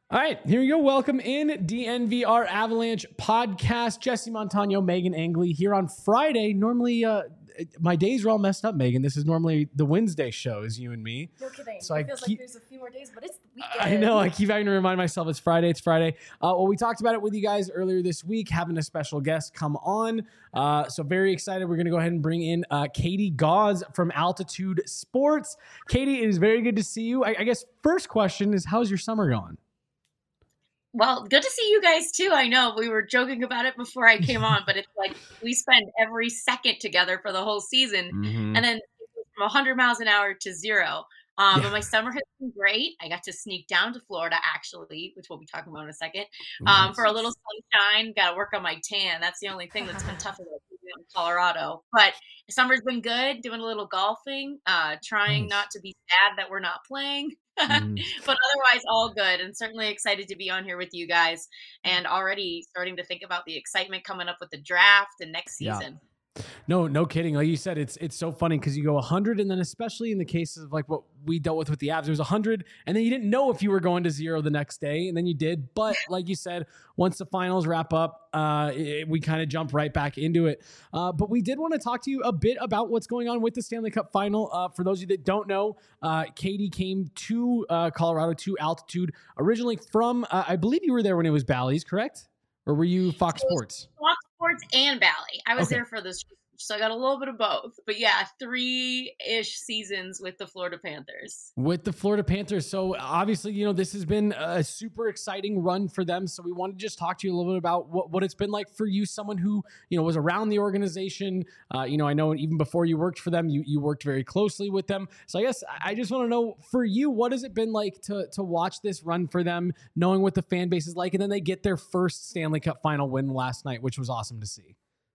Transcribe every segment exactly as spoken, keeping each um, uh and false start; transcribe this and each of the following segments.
All right, here we go. Welcome in D N V R Avalanche podcast. Jesse Montano, Megan Angley here on Friday. Normally, uh, my days are all messed up, Megan. This is normally the Wednesday show, is you and me. No kidding. So it I feels keep, like there's a few more days, but it's the weekend. I know. I keep having to remind myself it's Friday. It's Friday. Uh, well, we talked about it with you guys earlier this week, having a special guest come on. Uh, so very excited. We're going to go ahead and bring in uh, Katie Gause from Altitude Sports. Katie, it is very good to see you. I, I guess first question is, how's your summer going? Well, good to see you guys too. I know we were joking about it before I came on, but it's like we spend every second together for the whole season, mm-hmm. and then from one hundred miles an hour to zero. Um, yeah. But my summer has been great. I got to sneak down to Florida, actually, which we'll be talking about in a second, um, nice. for a little sunshine. Got to work on my tan. That's the only thing that's been tough about being in Colorado. But summer's been good. Doing a little golfing, uh, trying nice. not to be sad that we're not playing. Mm. But otherwise, all good, and certainly excited to be on here with you guys, and already starting to think about the excitement coming up with the draft and next season. Yeah. No, no kidding. Like you said, it's it's so funny because you go one hundred, and then especially in the cases of like what we dealt with with the Avs, it was one hundred, and then you didn't know if you were going to zero the next day, and then you did. But like you said, once the finals wrap up, uh, it, we kind of jump right back into it. Uh, but we did want to talk to you a bit about what's going on with the Stanley Cup Final. Uh, for those of you that don't know, uh, Katie came to uh, Colorado, to Altitude, originally from, uh, I believe you were there when it was Bally's, correct? Or were you Fox Sports? Fox Sports and Bally. I was okay. there for this, so I got a little bit of both. But yeah, three-ish seasons with the Florida Panthers. With the Florida Panthers. So obviously, you know, this has been a super exciting run for them. So we wanted to just talk to you a little bit about what, what it's been like for you, someone who, you know, was around the organization. Uh, you know, I know even before you worked for them, you you worked very closely with them. So I guess I just want to know, for you, what has it been like to to watch this run for them, knowing what the fan base is like, and then they get their first Stanley Cup Final win last night, which was awesome to see.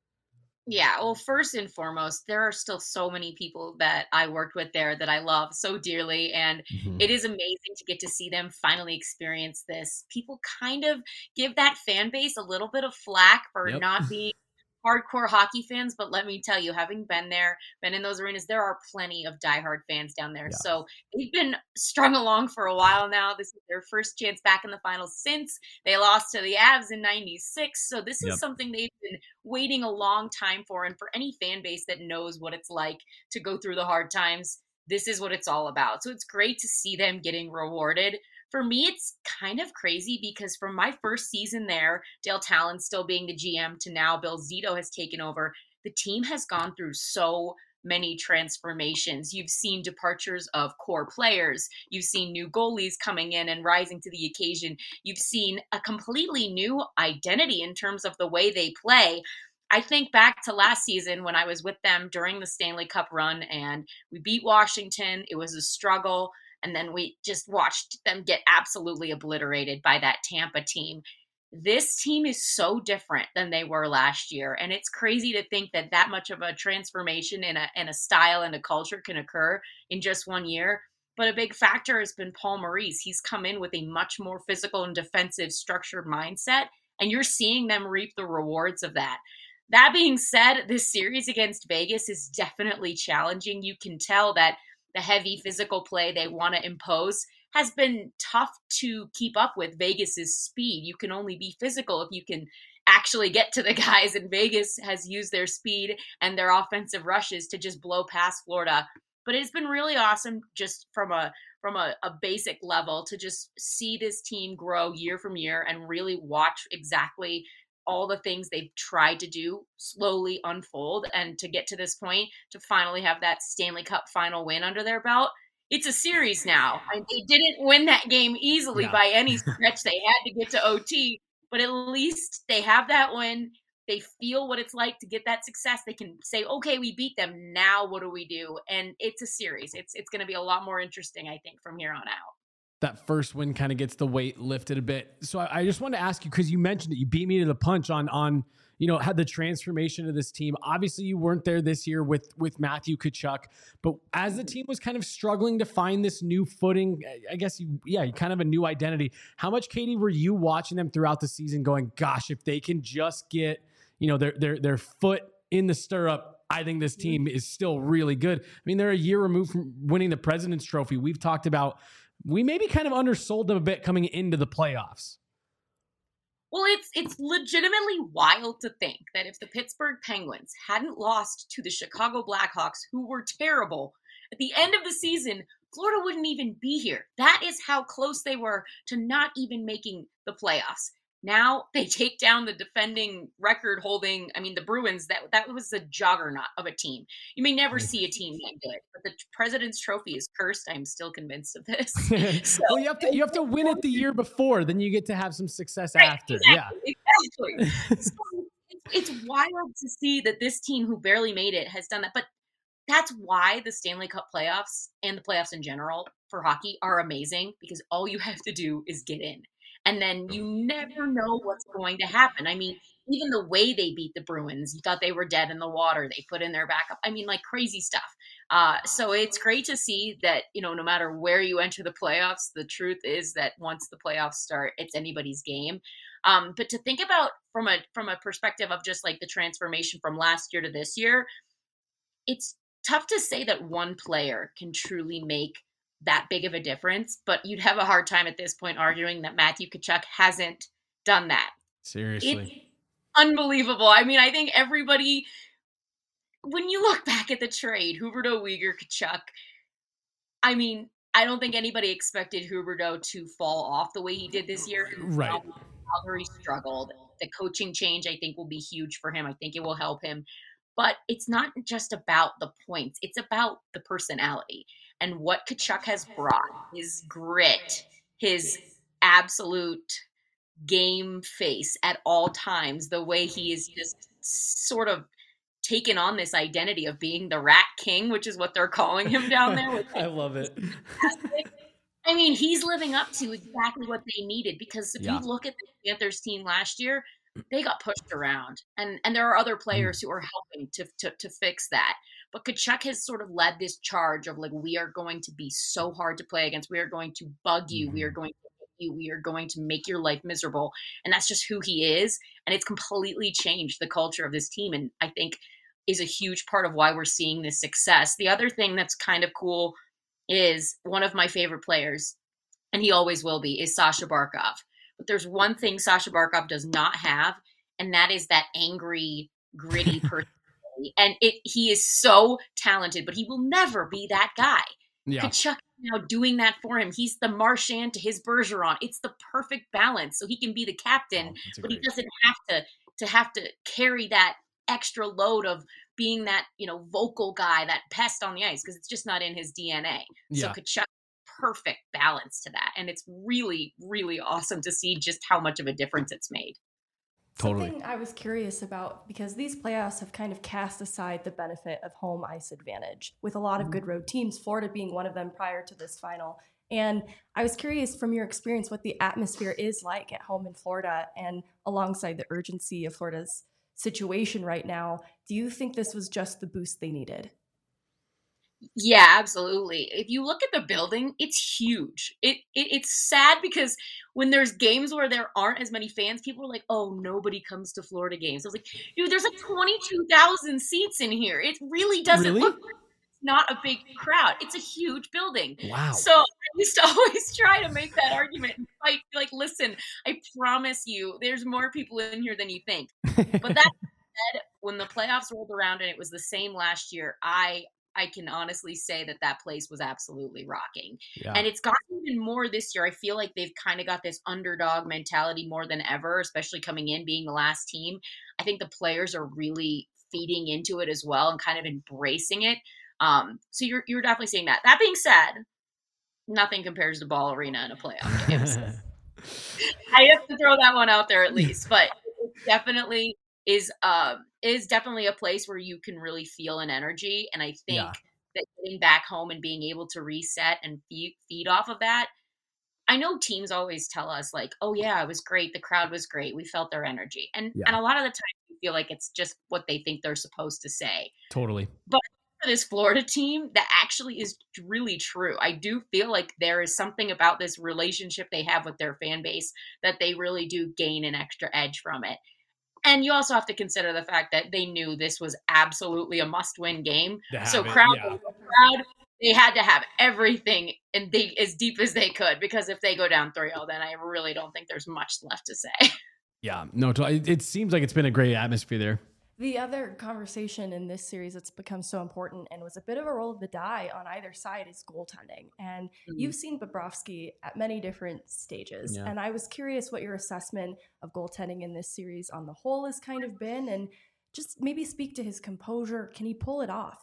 Yeah, well, first and foremost, there are still so many people that I worked with there that I love so dearly, and mm-hmm. it is amazing to get to see them finally experience this. People kind of give that fan base a little bit of flack for yep. not being hardcore hockey fans, but let me tell you, having been there, been in those arenas, there are plenty of diehard fans down there. Yeah. So they've been strung along for a while now. This is their first chance back in the finals since they lost to the Avs in ninety-six. So this yep. is something they've been waiting a long time for. And for any fan base that knows what it's like to go through the hard times, this is what it's all about. So it's great to see them getting rewarded. For me, it's kind of crazy because from my first season there, Dale Talon still being the G M, to now Bill Zito has taken over, the team has gone through so many transformations. You've seen departures of core players. You've seen new goalies coming in and rising to the occasion. You've seen a completely new identity in terms of the way they play. I think back to last season when I was with them during the Stanley Cup run and we beat Washington. It was a struggle. And then we just watched them get absolutely obliterated by that Tampa team. This team is so different than they were last year. And it's crazy to think that that much of a transformation in a, in a style and a culture can occur in just one year. But a big factor has been Paul Maurice. He's come in with a much more physical and defensive structured mindset. And you're seeing them reap the rewards of that. That being said, this series against Vegas is definitely challenging. You can tell that the heavy physical play they want to impose has been tough to keep up with Vegas's speed. You can only be physical if you can actually get to the guys, and Vegas has used their speed and their offensive rushes to just blow past Florida. But it's been really awesome just from a from a, a basic level to just see this team grow year from year and really watch exactly all the things they've tried to do slowly unfold, and to get to this point to finally have that Stanley Cup final win under their belt. It's a series now. I, they didn't win that game easily yeah. by any stretch. They had to get to O T, but at least they have that win. They feel what it's like to get that success. They can say, okay, we beat them. Now what do we do? And it's a series. It's, it's going to be a lot more interesting, I think, from here on out. That first win kind of gets the weight lifted a bit. So I, I just wanted to ask you, because you mentioned it, you beat me to the punch on, on, you know, had the transformation of this team. Obviously you weren't there this year with, with Matthew Tkachuk, but as the team was kind of struggling to find this new footing, I guess you, yeah, kind of a new identity. How much, Katie, were you watching them throughout the season going, gosh, if they can just get, you know, their, their, their foot in the stirrup, I think this team is still really good. I mean, they're a year removed from winning the President's Trophy. We've talked about we maybe kind of undersold them a bit coming into the playoffs. Well, it's it's legitimately wild to think that if the Pittsburgh Penguins hadn't lost to the Chicago Blackhawks, who were terrible, at the end of the season, Florida wouldn't even be here. That is how close they were to not even making the playoffs. Now they take down the defending record holding, I mean, the Bruins, that that was a juggernaut of a team. You may never see a team that good, but the President's Trophy is cursed. I'm still convinced of this. So, well, you have to you have to win it the year before, then you get to have some success right, after. Exactly, yeah. Exactly. So it's, it's wild to see that this team who barely made it has done that. But that's why the Stanley Cup playoffs and the playoffs in general for hockey are amazing, because all you have to do is get in. And then you never know what's going to happen. I mean, even the way they beat the Bruins, you thought they were dead in the water. They put in their backup. I mean, like crazy stuff. Uh, so it's great to see that, you know, no matter where you enter the playoffs, the truth is that once the playoffs start, it's anybody's game. Um, but to think about from a from a perspective of just like the transformation from last year to this year, it's tough to say that one player can truly make that big of a difference, but you'd have a hard time at this point arguing that Matthew Tkachuk hasn't done that. Seriously. It's unbelievable. I mean, I think everybody, when you look back at the trade, Huberdeau, Weegar, Tkachuk, I mean, I don't think anybody expected Huberdeau to fall off the way he did this year. Right. Calgary struggled. The coaching change, I think, will be huge for him. I think it will help him. But it's not just about the points. It's about the personality. And what Tkachuk has brought, his grit, his absolute game face at all times, the way he is just sort of taken on this identity of being the Rat King, which is what they're calling him down there. I love it. I mean, he's living up to exactly what they needed, because if Yeah. you look at the Panthers team last year, they got pushed around, and, and there are other players who are helping to, to, to fix that. But Tkachuk has sort of led this charge of like, we are going to be so hard to play against. We are going to bug you. Mm-hmm. We are going to hit you. We are going to make your life miserable. And that's just who he is. And it's completely changed the culture of this team. And I think is a huge part of why we're seeing this success. The other thing that's kind of cool is one of my favorite players, and he always will be, is Sasha Barkov. But there's one thing Sasha Barkov does not have, and that is that angry, gritty personality. And it, he is so talented, but he will never be that guy. Yeah. Tkachuk now doing that for him. He's the Marchand to his Bergeron. It's the perfect balance, so he can be the captain, oh, but he doesn't have to to have to carry that extra load of being that, you know, vocal guy, that pest on the ice, because it's just not in his D N A. Yeah. So Tkachuk, perfect balance to that, and it's really, really awesome to see just how much of a difference it's made. Totally. Something I was curious about, because these playoffs have kind of cast aside the benefit of home ice advantage with a lot of good road teams, Florida being one of them prior to this final. And I was curious from your experience what the atmosphere is like at home in Florida, and alongside the urgency of Florida's situation right now. Do you think this was just the boost they needed? Yeah, absolutely. If you look at the building, it's huge. It, it it's sad because when there's games where there aren't as many fans, people are like, "Oh, nobody comes to Florida games." I was like, "Dude, there's like twenty-two thousand seats in here. It really doesn't really? look like it's not a big crowd. It's a huge building." Wow. So I used to always try to make that argument and fight. Like, listen, I promise you, there's more people in here than you think. But that said, when the playoffs rolled around and it was the same last year, I. I can honestly say that that place was absolutely rocking. Yeah. And it's gotten even more this year. I feel like they've kind of got this underdog mentality more than ever, especially coming in, being the last team. I think the players are really feeding into it as well and kind of embracing it. Um, so you're you're definitely seeing that. That being said, nothing compares to Ball Arena in a playoff game. So I have to throw that one out there at least. But it definitely is uh, is definitely a place where you can really feel an energy. And I think yeah. that getting back home and being able to reset and feed, feed off of that, I know teams always tell us like, oh yeah, it was great. The crowd was great. We felt their energy. And, yeah. and a lot of the time you feel like it's just what they think they're supposed to say. Totally. But for this Florida team, that actually is really true. I do feel like there is something about this relationship they have with their fan base that they really do gain an extra edge from it. And you also have to consider the fact that they knew this was absolutely a must-win game. So crowd, yeah. crowd, they had to have everything and dig as deep as they could, because if they go down three oh, then I really don't think there's much left to say. Yeah, no, it, it seems like it's been a great atmosphere there. The other conversation in this series that's become so important and was a bit of a roll of the die on either side is goaltending. And mm-hmm. you've seen Bobrovsky at many different stages. Yeah. And I was curious what your assessment of goaltending in this series on the whole has kind of been, and just maybe speak to his composure. Can he pull it off?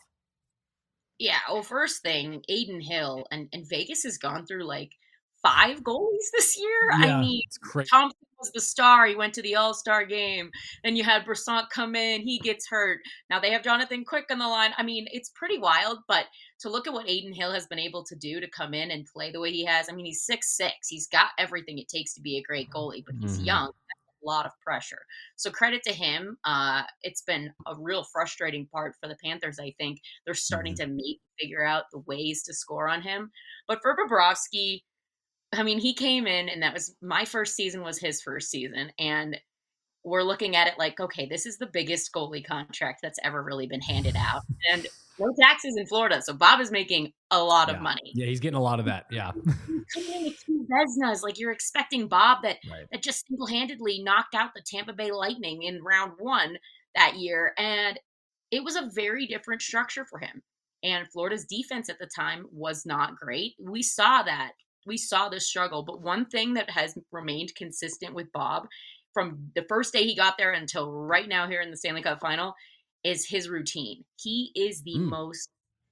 Yeah, well, first thing, Adin Hill, and, and Vegas has gone through like five goalies this year. Yeah, I mean, it's crazy. Thompson was the star. He went to the All-Star game. Then you had Brisson come in. He gets hurt. Now they have Jonathan Quick on the line. I mean, it's pretty wild, but to look at what Adin Hill has been able to do to come in and play the way he has, I mean, he's six six. He's got everything it takes to be a great goalie, but he's mm-hmm. young. A lot of pressure. So credit to him. Uh, it's been a real frustrating part for the Panthers, I think. They're starting mm-hmm. to maybe figure out the ways to score on him. But for Bobrovsky, I mean, he came in, and that was my first season was his first season. And we're looking at it like, okay, this is the biggest goalie contract that's ever really been handed out. And no taxes in Florida. So Bob is making a lot yeah. of money. Yeah, he's getting a lot of that. Yeah. Coming in with two Vezinas, like you're expecting Bob that, right. that just single-handedly knocked out the Tampa Bay Lightning in round one that year. And it was a very different structure for him. And Florida's defense at the time was not great. We saw that. We saw the struggle. But one thing that has remained consistent with Bob from the first day he got there until right now here in the Stanley Cup final is his routine. He is the mm. most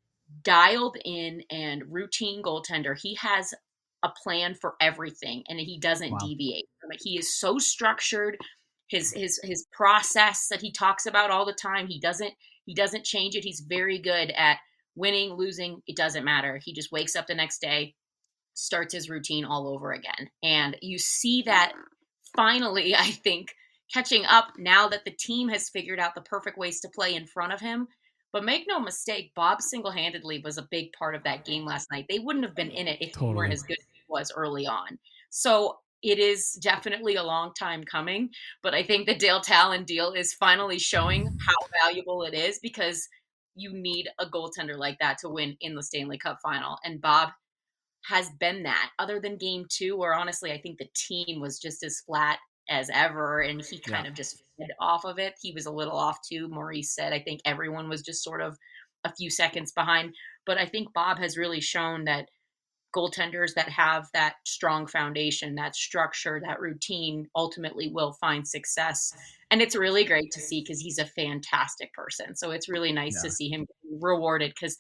dialed in and routine goaltender. He has a plan for everything, and he doesn't wow. deviate from it. He is so structured. His his his process that he talks about all the time, he doesn't he doesn't change it. He's very good at winning, losing, it doesn't matter. He just wakes up the next day, starts his routine all over again. And you see that finally, I think, catching up now that the team has figured out the perfect ways to play in front of him. But make no mistake, Bob single-handedly was a big part of that game last night. They wouldn't have been in it if totally. he weren't as good as he was early on. So it is definitely a long time coming. But I think the Dale Talon deal is finally showing how valuable it is, because you need a goaltender like that to win in the Stanley Cup final. And Bob has been that, other than game two, where honestly, I think the team was just as flat as ever, and he kind yeah. of just fed off of it. He was a little off too. Maurice said, I think everyone was just sort of a few seconds behind. But I think Bob has really shown that goaltenders that have that strong foundation, that structure, that routine, ultimately will find success. And it's really great to see, because he's a fantastic person. So it's really nice yeah. to see him rewarded, because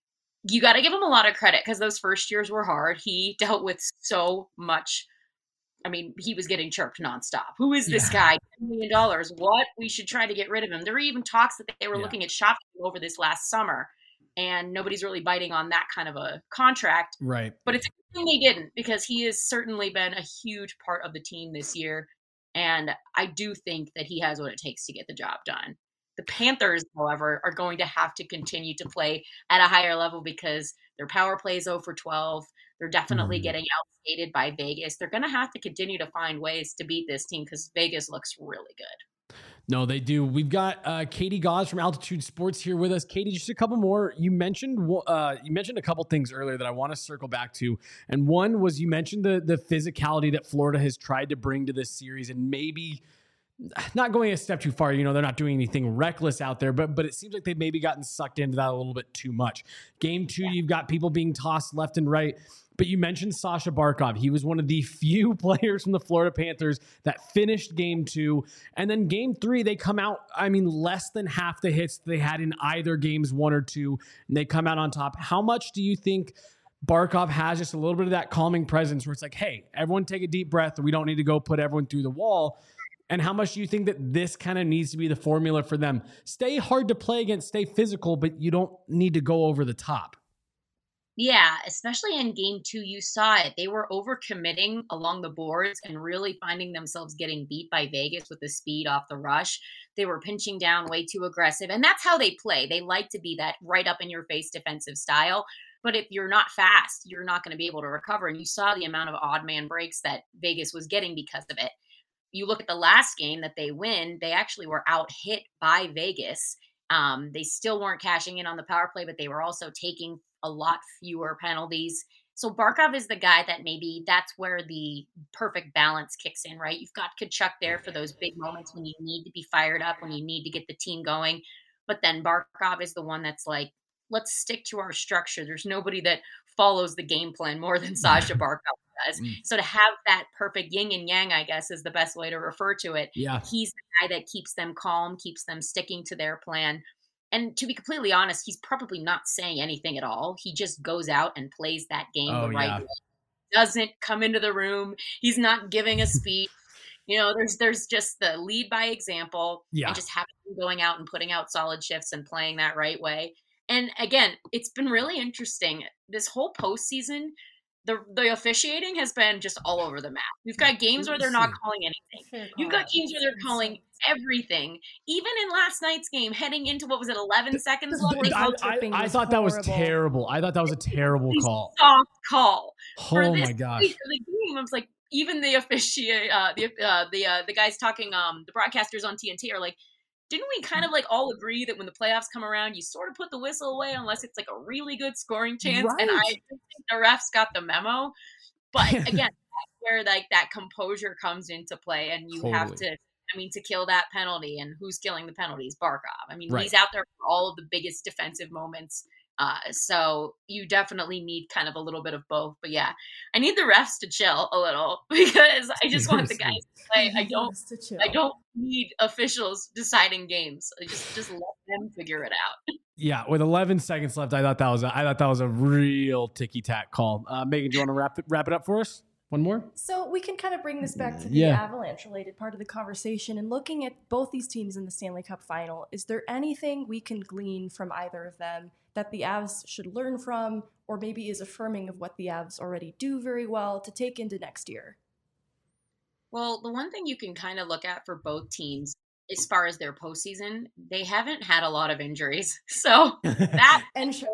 you got to give him a lot of credit, because those first years were hard. He dealt with so much. I mean, he was getting chirped nonstop. Who is this yeah. guy? ten million dollars. What? We should try to get rid of him. There were even talks that they were yeah. looking at shopping him over this last summer, and nobody's really biting on that kind of a contract. Right. But it's a good thing they didn't, because he has certainly been a huge part of the team this year. And I do think that he has what it takes to get the job done. The Panthers, however, are going to have to continue to play at a higher level, because their power play is oh for twelve. They're definitely mm. getting outskated by Vegas. They're going to have to continue to find ways to beat this team, because Vegas looks really good. No, they do. We've got uh, Katie Gauze from Altitude Sports here with us. Katie, just a couple more. You mentioned uh, you mentioned a couple things earlier that I want to circle back to, and one was you mentioned the the physicality that Florida has tried to bring to this series, and maybe not going a step too far. You know, they're not doing anything reckless out there, but but it seems like they've maybe gotten sucked into that a little bit too much. Game two, you've got people being tossed left and right. But you mentioned Sasha Barkov. He was one of the few players from the Florida Panthers that finished game two. And then game three, they come out, I mean, less than half the hits they had in either games one or two, and they come out on top. How much do you think Barkov has just a little bit of that calming presence where it's like, hey, everyone take a deep breath. We don't need to go put everyone through the wall. And how much do you think that this kind of needs to be the formula for them? Stay hard to play against, stay physical, but you don't need to go over the top. Yeah, especially in game two, you saw it. They were overcommitting along the boards and really finding themselves getting beat by Vegas with the speed off the rush. They were pinching down way too aggressive, and that's how they play. They like to be that right up in your face defensive style. But if you're not fast, you're not going to be able to recover. And you saw the amount of odd man breaks that Vegas was getting because of it. You look at the last game that they win, they actually were out hit by Vegas. Um, they still weren't cashing in on the power play, but they were also taking a lot fewer penalties. So Barkov is the guy that maybe that's where the perfect balance kicks in, right? You've got Tkachuk there for those big moments when you need to be fired up, when you need to get the team going. But then Barkov is the one that's like, let's stick to our structure. There's nobody that follows the game plan more than Sasha Barkov does. So to have that perfect yin and yang, I guess, is the best way to refer to it. Yeah. He's the guy that keeps them calm, keeps them sticking to their plan. And to be completely honest, he's probably not saying anything at all. He just goes out and plays that game Oh, the right yeah. way. Doesn't come into the room. He's not giving a speech. You know, there's there's just the lead by example Yeah. and just having him going out and putting out solid shifts and playing that right way. And again, it's been really interesting. This whole postseason, the the officiating has been just all over the map. We've got games where they're not calling anything. Fair You've call. got games where they're calling everything. Even in last night's game, heading into what was it, eleven seconds left? They I, called I, tripping I was thought that was horrible. terrible. I thought that was a terrible a call. soft call. For Oh this my gosh. stage of the game, I was like, even the officiate, uh, the uh, the uh, the guys talking, um, the broadcasters on T N T are like, didn't we kind of like all agree that when the playoffs come around, you sort of put the whistle away unless it's like a really good scoring chance? Right. And I think the refs got the memo. But again, that's where like that composure comes into play, and you have Totally. to. I mean, to kill that penalty, and who's killing the penalties? Barkov. I mean, Right. he's out there for all of the biggest defensive moments. Uh, so you definitely need kind of a little bit of both. But yeah, I need the refs to chill a little because I just want the guys to play. I don't. Just to chill. I don't need officials deciding games. I just just let them figure it out. Yeah, with eleven seconds left, I thought that was a, I thought that was a real ticky tack call. Uh, Megan, do you want to wrap it, wrap it up for us? One more? So we can kind of bring this back to the Yeah. Avalanche related part of the conversation, and looking at both these teams in the Stanley Cup final, is there anything we can glean from either of them that the Avs should learn from, or maybe is affirming of what the Avs already do very well to take into next year? Well, the one thing you can kind of look at for both teams as far as their postseason, they haven't had a lot of injuries. So that And sh-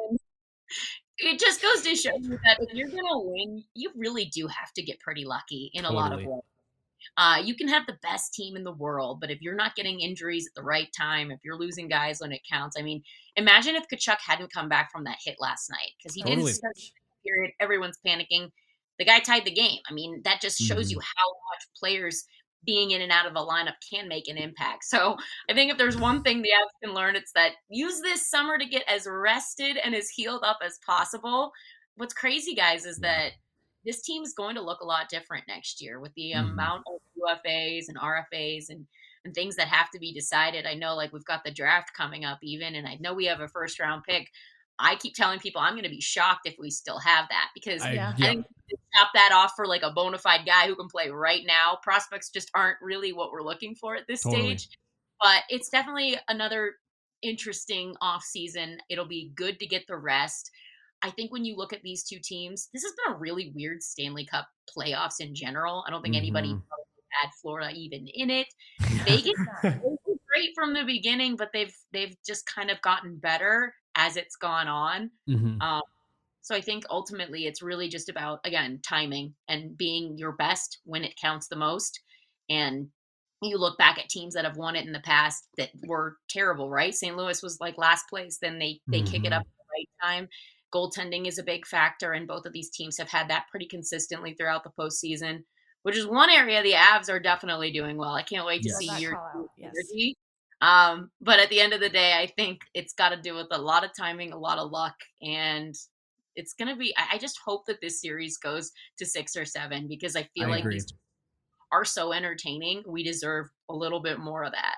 it just goes to show you that if you're going to win, you really do have to get pretty lucky in a lot of Totally. ways. Uh, you can have the best team in the world, but if you're not getting injuries at the right time, if you're losing guys when it counts, I mean, imagine if Tkachuk hadn't come back from that hit last night because he Totally. didn't start the period. Everyone's panicking. The guy tied the game. I mean, that just shows Mhm. you how much players being in and out of a lineup can make an impact. So I think if there's one thing the Avs can learn, it's that use this summer to get as rested and as healed up as possible. What's crazy, guys, is that this team is going to look a lot different next year with the Mhm. amount of U F As and R F As and, and things that have to be decided. I know like we've got the draft coming up even, and I know we have a first round pick. I keep telling people I'm going to be shocked if we still have that because I, Yeah. I yeah. think to top that off for like a bona fide guy who can play right now. Prospects just aren't really what we're looking for at this Totally. stage. But it's definitely another interesting off season. It'll be good to get the rest. I think when you look at these two teams, this has been a really weird Stanley Cup playoffs in general. I don't think anybody Mhm. had Florida even in it. Vegas they were great from the beginning, but they've they've just kind of gotten better as it's gone on. Mhm. Um, so I think ultimately it's really just about, again, timing and being your best when it counts the most. And you look back at teams that have won it in the past that were terrible, right? Saint Louis was like last place, then they they kick it Mhm. up at the right time. Goaltending is a big factor, and both of these teams have had that pretty consistently throughout the postseason, which is one area the Avs are definitely doing well. I can't wait to Yes. see That year call two out, yes. energy. Um, but at the end of the day, I think it's got to do with a lot of timing, a lot of luck, and it's going to be. I, I just hope that this series goes to six or seven because I feel I like agree. these are so entertaining. We deserve a little bit more of that.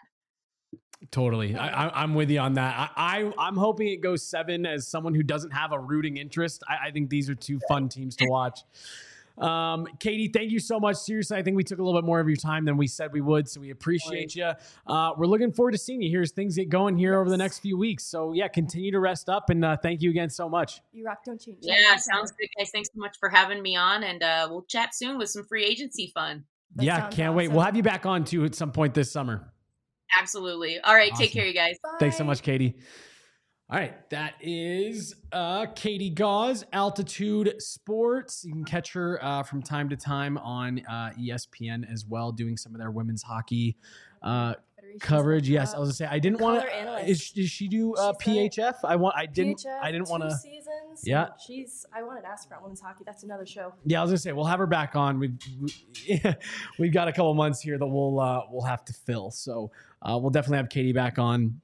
Totally. I, I, I'm with you on that. I, I, I'm hoping it goes seven as someone who doesn't have a rooting interest. I, I think these are two fun teams to watch. Um, Katie, thank you so much. Seriously, I think we took a little bit more of your time than we said we would, so we appreciate you. Uh, we're looking forward to seeing you here as things get going here over the next few weeks. So yeah, continue to rest up, and uh, thank you again so much. You rock, don't change. Yeah, sounds good, guys. Thanks so much for having me on, and uh, we'll chat soon with some free agency fun. That yeah, sounds can't wait. awesome. We'll have you back on too at some point this summer. Absolutely. All right, take Awesome. care, you guys. Thanks so Bye. much, Katie. All right, that is uh, Katie Gauze, Altitude Sports. You can catch her uh, from time to time on uh, E S P N as well, doing some of their women's hockey uh, commentary. Coverage, like, yes. uh, I was gonna say I didn't want to. Is does she do uh, P H F? I want. I didn't. P H F, I didn't want to. Seasons. Yeah, she's. I wanted to ask about women's hockey. That's another show. Yeah, I was gonna say we'll have her back on. We've we, we've got a couple months here that we'll uh, we'll have to fill. So uh, we'll definitely have Katie back on.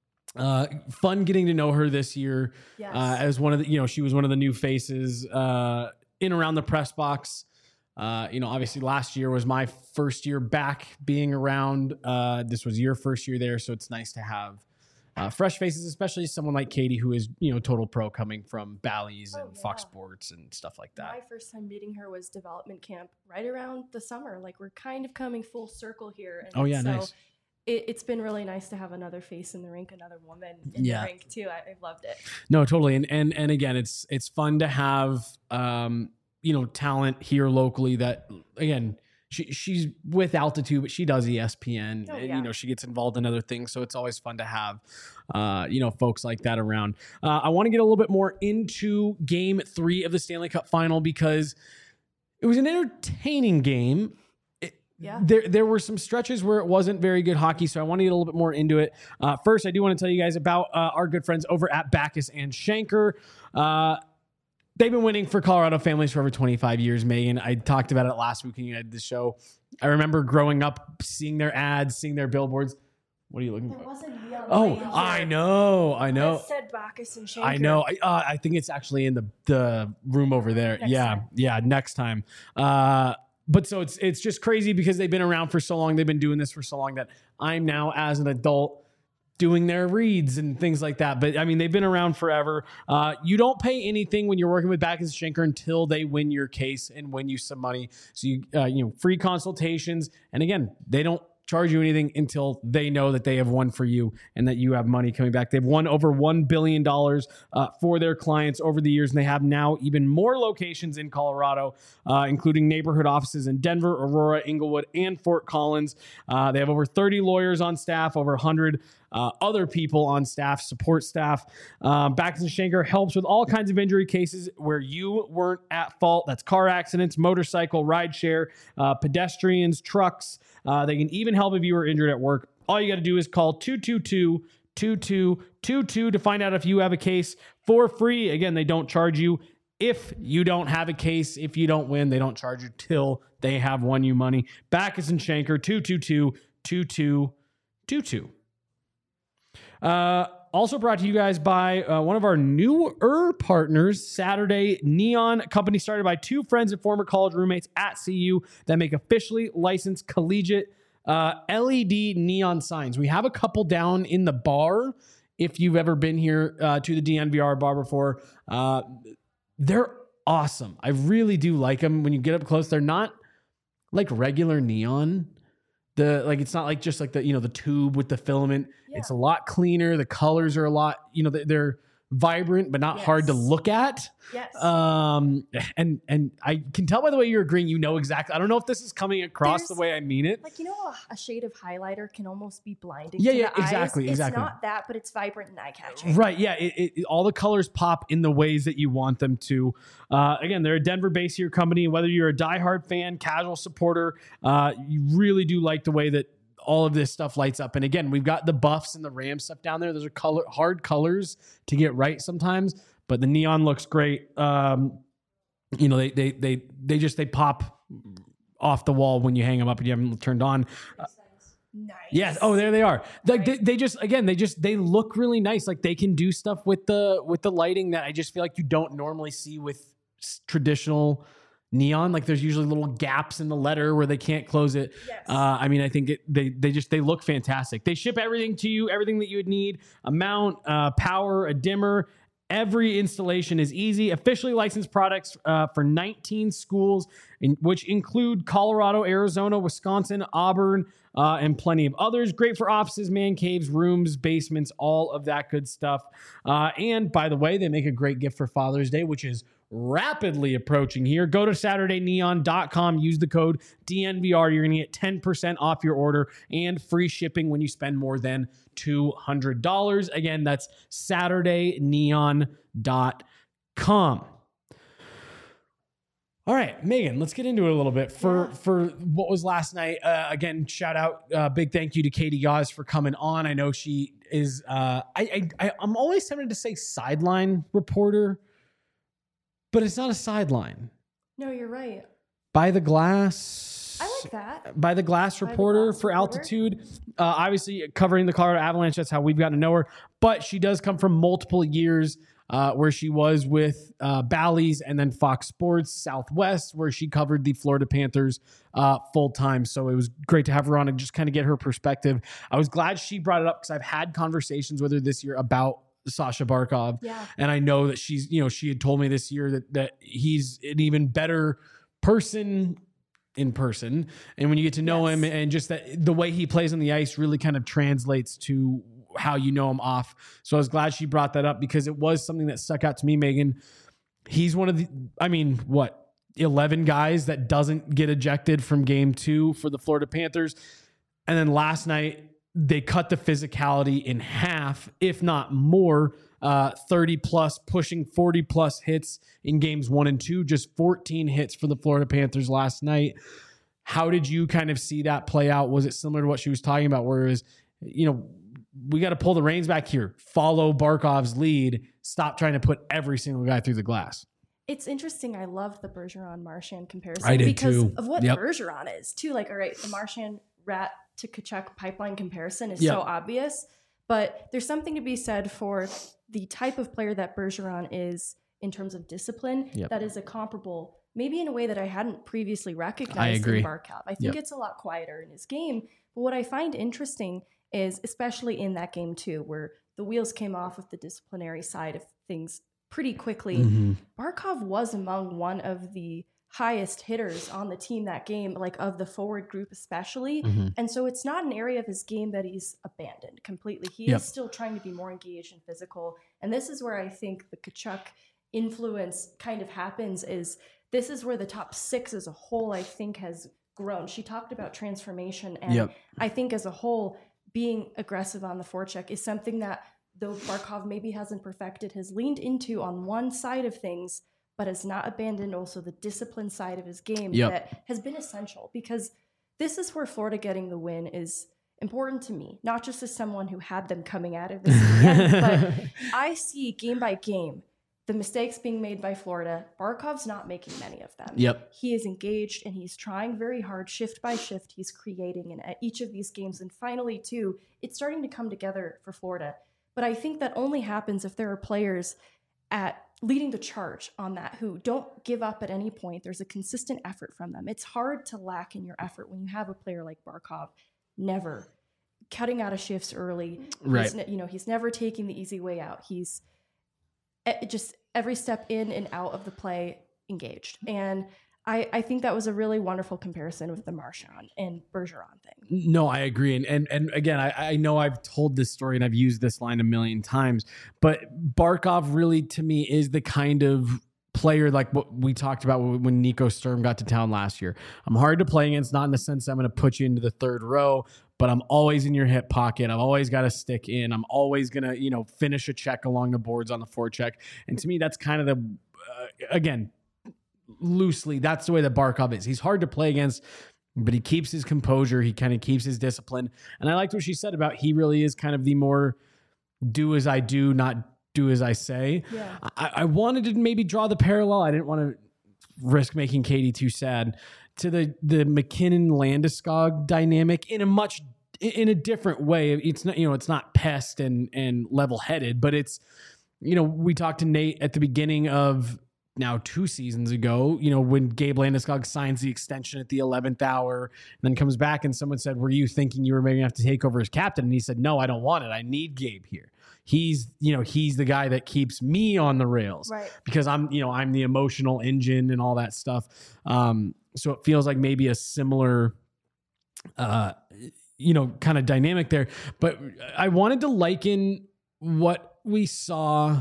Uh, fun getting to know her this year. Yes. Uh, as one of the, you know, she was one of the new faces uh, in around the press box. Uh, you know, obviously last year was my first year back being around. Uh, this was your first year there, so it's nice to have uh, fresh faces, especially someone like Katie, who is, you know, total pro coming from Bally's Oh, and yeah. Fox Sports and stuff like that. My first time meeting her was development camp right around the summer. Like we're kind of coming full circle here. And Oh yeah, so nice. It, it's been really nice to have another face in the rink, another woman in Yeah. the rink too. I, I've loved it. No, totally. And and and again, it's it's fun to have um, you know, talent here locally that, again, she she's with Altitude, but she does E S P N, Oh, and yeah. you know, she gets involved in other things, so it's always fun to have uh, you know, folks like that around. Uh, I want to get a little bit more into game three of the Stanley Cup final because it was an entertaining game. Yeah. There, there were some stretches where it wasn't very good hockey, so I want to get a little bit more into it. Uh, first, I do want to tell you guys about uh, our good friends over at Backus and Schenker. Uh, they've been winning for Colorado families for over twenty-five years, Megan. I talked about it last week when you had the show. I remember growing up, seeing their ads, seeing their billboards. What are you looking There for? wasn't neon Oh, light I here. know, I know. That said Bacchus and Schenker. I know. I, uh, I think it's actually in the the room over there. Next yeah, time. yeah. Next time. Uh, but so it's it's just crazy because they've been around for so long. They've been doing this for so long that I'm now, as an adult, doing their reads and things like that. But I mean, they've been around forever. Uh, you don't pay anything when you're working with Backus and Schenker until they win your case and win you some money. So you uh, you know, free consultations. And again, they don't charge you anything until they know that they have won for you and that you have money coming back. They've won over one billion dollars uh, for their clients over the years, and they have now even more locations in Colorado, uh, including neighborhood offices in Denver, Aurora, Inglewood, and Fort Collins. Uh, they have over thirty lawyers on staff, over one hundred uh, other people on staff, support staff. Um, Backus and Schenker helps with all kinds of injury cases where you weren't at fault. That's car accidents, motorcycle, rideshare, uh, pedestrians, trucks. Uh, they can even help if you were injured at work. All you got to do is call two two two, two two two two to find out if you have a case for free. Again, they don't charge you if you don't have a case. If you don't win, they don't charge you till they have won you money. Backus and Schenker, two two two, two two two two. Uh, also brought to you guys by uh, one of our newer partners, Saturday Neon, a company started by two friends and former college roommates at C U that make officially licensed collegiate uh, L E D neon signs. We have a couple down in the bar. If you've ever been here uh, to the D N V R bar before, uh, they're awesome. I really do like them. When you get up close, they're not like regular neon. The like it's not like just like the, you know, the tube with the filament. Yeah. It's a lot cleaner. The colors are a lot, you know, they're vibrant but not Yes. hard to look at. Yes. Um and and I can tell by the way you're agreeing, you know exactly. I don't know if this is coming across There's- the way I mean it. Like, you know, a, a shade of highlighter can almost be blinding. Yeah, to yeah, the exactly, eyes. exactly. It's not that, but it's vibrant and eye catching. Right. Yeah. It, it, it- all the colors pop in the ways that you want them to. Uh, again, they're a Denver-based here company. Whether you're a diehard fan, casual supporter, uh, you really do like the way that all of this stuff lights up. And again, we've got the Buffs and the Rams stuff down there. Those are color hard colors to get right sometimes, but the neon looks great. Um, you know, they they they they just they pop off the wall when you hang them up and you have them turned on. Nice. Yes. Oh, there they are. Like they, they just again, they just they look really nice. Like they can do stuff with the with the lighting that I just feel like you don't normally see with s- traditional neon. Like there's usually little gaps in the letter where they can't close it. Yes. Uh, I mean, I think it, they they just they look fantastic. They ship everything to you, everything that you would need: a mount, uh, power, a dimmer. Every installation is easy. Officially licensed products uh, for nineteen schools, in, which include Colorado, Arizona, Wisconsin, Auburn, uh, and plenty of others. Great for offices, man caves, rooms, basements, all of that good stuff. Uh, and by the way, they make a great gift for Father's Day, which is rapidly approaching here. Go to Saturday Neon dot com, use the code D N V R. You're going to get ten percent off your order and free shipping when you spend more than two hundred dollars. Again, that's Saturday Neon dot com. All right, Megan, let's get into it a little bit for, Yeah. for what was last night. Uh, again, shout out, uh, big thank you to Katie Gauze for coming on. I know she is, uh, I, I, I'm always tempted to say sideline reporter, but it's not a sideline. No, you're right. By the glass. I like that. By the glass By the reporter glass for reporter. Altitude. Uh, obviously covering the Colorado Avalanche. That's how we've gotten to know her. But she does come from multiple years uh, where she was with uh, Bally's and then Fox Sports Southwest, where she covered the Florida Panthers uh, full time. So it was great to have her on and just kind of get her perspective. I was glad she brought it up because I've had conversations with her this year about Sasha Barkov. Yeah. And I know that she's, you know, she had told me this year that that he's an even better person in person. And when you get to know Yes. him and just that the way he plays on the ice really kind of translates to how you know him off. So I was glad she brought that up because it was something that stuck out to me, Megan. He's one of the, I mean, what, eleven guys that doesn't get ejected from game two for the Florida Panthers. And then last night, they cut the physicality in half, if not more, uh, thirty plus, pushing forty plus hits in games one and two, just fourteen hits for the Florida Panthers last night. How did you kind of see that play out? Was it similar to what she was talking about, where it was, you know, we got to pull the reins back here, follow Barkov's lead, stop trying to put every single guy through the glass? It's interesting. I love the Bergeron Marchand comparison I did because too. of what Yep. Bergeron is too. Like, all right, the Marchand Rat to Kachuk pipeline comparison is Yep. so obvious, but there's something to be said for the type of player that Bergeron is in terms of discipline. Yep. That is a comparable, maybe in a way that I hadn't previously recognized I agree. in Barkov. I think Yep. it's a lot quieter in his game. But what I find interesting is, especially in that game too, where the wheels came off of the disciplinary side of things pretty quickly, Mm-hmm. Barkov was among one of the highest hitters on the team that game, like of the forward group especially. Mm-hmm. And so it's not an area of his game that he's abandoned completely. He Yep. is still trying to be more engaged and physical. And this is where I think the Kachuk influence kind of happens, is this is where the top six as a whole, I think, has grown. She talked about transformation. And Yep. I think as a whole, being aggressive on the forecheck is something that, though Barkov maybe hasn't perfected, has leaned into on one side of things, but has not abandoned also the discipline side of his game Yep. that has been essential, because this is where Florida getting the win is important to me, not just as someone who had them coming out of this weekend, but I see game by game the mistakes being made by Florida. Barkov's not making many of them. Yep. He is engaged and he's trying very hard, shift by shift. He's creating in each of these games. And finally, too, it's starting to come together for Florida. But I think that only happens if there are players at leading the charge on that who don't give up at any point. There's a consistent effort from them. It's hard to lack in your effort when you have a player like Barkov, never cutting out of shifts early. Right. He's, ne- you know, he's never taking the easy way out. He's eh, just every step in and out of the play engaged. And I, I think that was a really wonderful comparison with the Marchand and Bergeron thing. No, I agree. And and, and again, I, I know I've told this story and I've used this line a million times, but Barkov really, to me, is the kind of player like what we talked about when Nico Sturm got to town last year. I'm hard to play against, not in the sense that I'm going to put you into the third row, but I'm always in your hip pocket. I've always got to stick in. I'm always going to, you know, finish a check along the boards on the forecheck. And to me, that's kind of the, uh, again, loosely, that's the way that Barkov is. He's hard to play against, but he keeps his composure. He kind of keeps his discipline. And I liked what she said about he really is kind of the more do as I do, not do as I say. Yeah. I, I wanted to maybe draw the parallel. I didn't want to risk making Katie too sad, to the the McKinnon Landeskog dynamic in a much in a different way. It's not, you know, it's not pest and and level headed, but it's, you know, we talked to Nate at the beginning of now two seasons ago, you know, when Gabe Landeskog signs the extension at the eleventh hour and then comes back and someone said, were you thinking you were maybe going to have to take over as captain? And he said, no, I don't want it. I need Gabe here. He's, you know, he's the guy that keeps me on the rails, Right. because I'm, you know, I'm the emotional engine and all that stuff. Um, so it feels like maybe a similar, uh, you know, kind of dynamic there. But I wanted to liken what we saw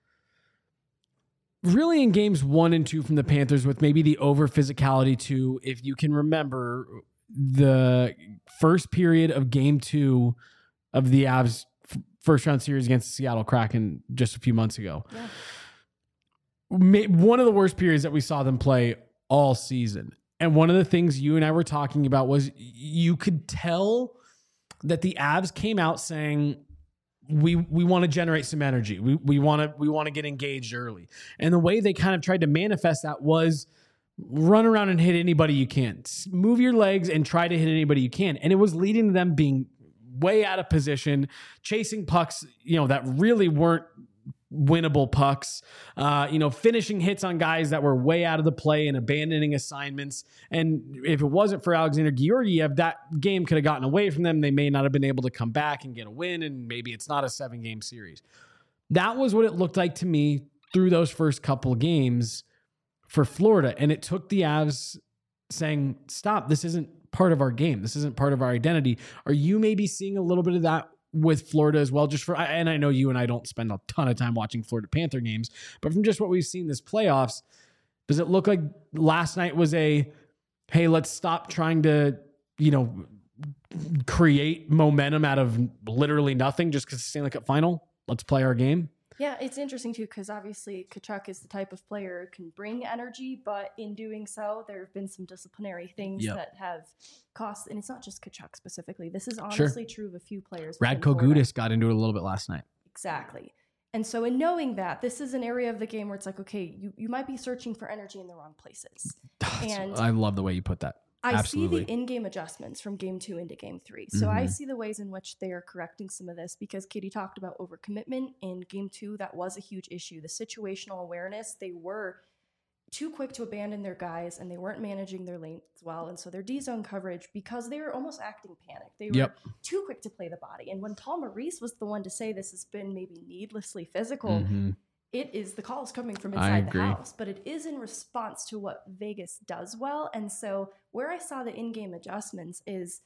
really in games one and two from the Panthers with maybe the over physicality to, if you can remember, the first period of game two of the Avs f- first round series against the Seattle Kraken just a few months ago. Yeah. Ma- One of the worst periods that we saw them play all season. And one of the things you and I were talking about was you could tell that the Avs came out saying, we we want to generate some energy. We we want to we want to get engaged early. And the way they kind of tried to manifest that was run around and hit anybody you can. Move your legs and try to hit anybody you can. And it was leading to them being way out of position, chasing pucks, you know, that really weren't winnable pucks, uh, you know, finishing hits on guys that were way out of the play and abandoning assignments. And if it wasn't for Alexander Georgiev, that game could have gotten away from them. They may not have been able to come back and get a win, and maybe it's not a seven game series. That was what it looked like to me through those first couple games for Florida. And it took the Avs saying, stop, this isn't part of our game. This isn't part of our identity. Are you maybe seeing a little bit of that with Florida as well? Just for, and I know you and I don't spend a ton of time watching Florida Panther games, but from just what we've seen this playoffs, does it look like last night was a, hey, let's stop trying to, you know, create momentum out of literally nothing just because it's Stanley Cup final? Let's play our game. Yeah, it's interesting too, because obviously Tkachuk is the type of player who can bring energy, but in doing so, there have been some disciplinary things yep. that have cost, and it's not just Tkachuk specifically. This is honestly sure. true of a few players. Radko Gudas got into it a little bit last night. Exactly. And so in knowing that, this is an area of the game where it's like, okay, you, you might be searching for energy in the wrong places. And I love the way you put that. I Absolutely. see the in-game adjustments from game two into game three. So mm-hmm. I see the ways in which they are correcting some of this, because Katie talked about overcommitment in game two. That was a huge issue. The situational awareness, they were too quick to abandon their guys, and they weren't managing their lanes well. And so their D-zone coverage, because they were almost acting panic, they were yep. too quick to play the body. And when Paul Maurice was the one to say this has been maybe needlessly physical, mm-hmm. it is the calls coming from inside the house, but it is in response to what Vegas does well. And so where I saw the in-game adjustments is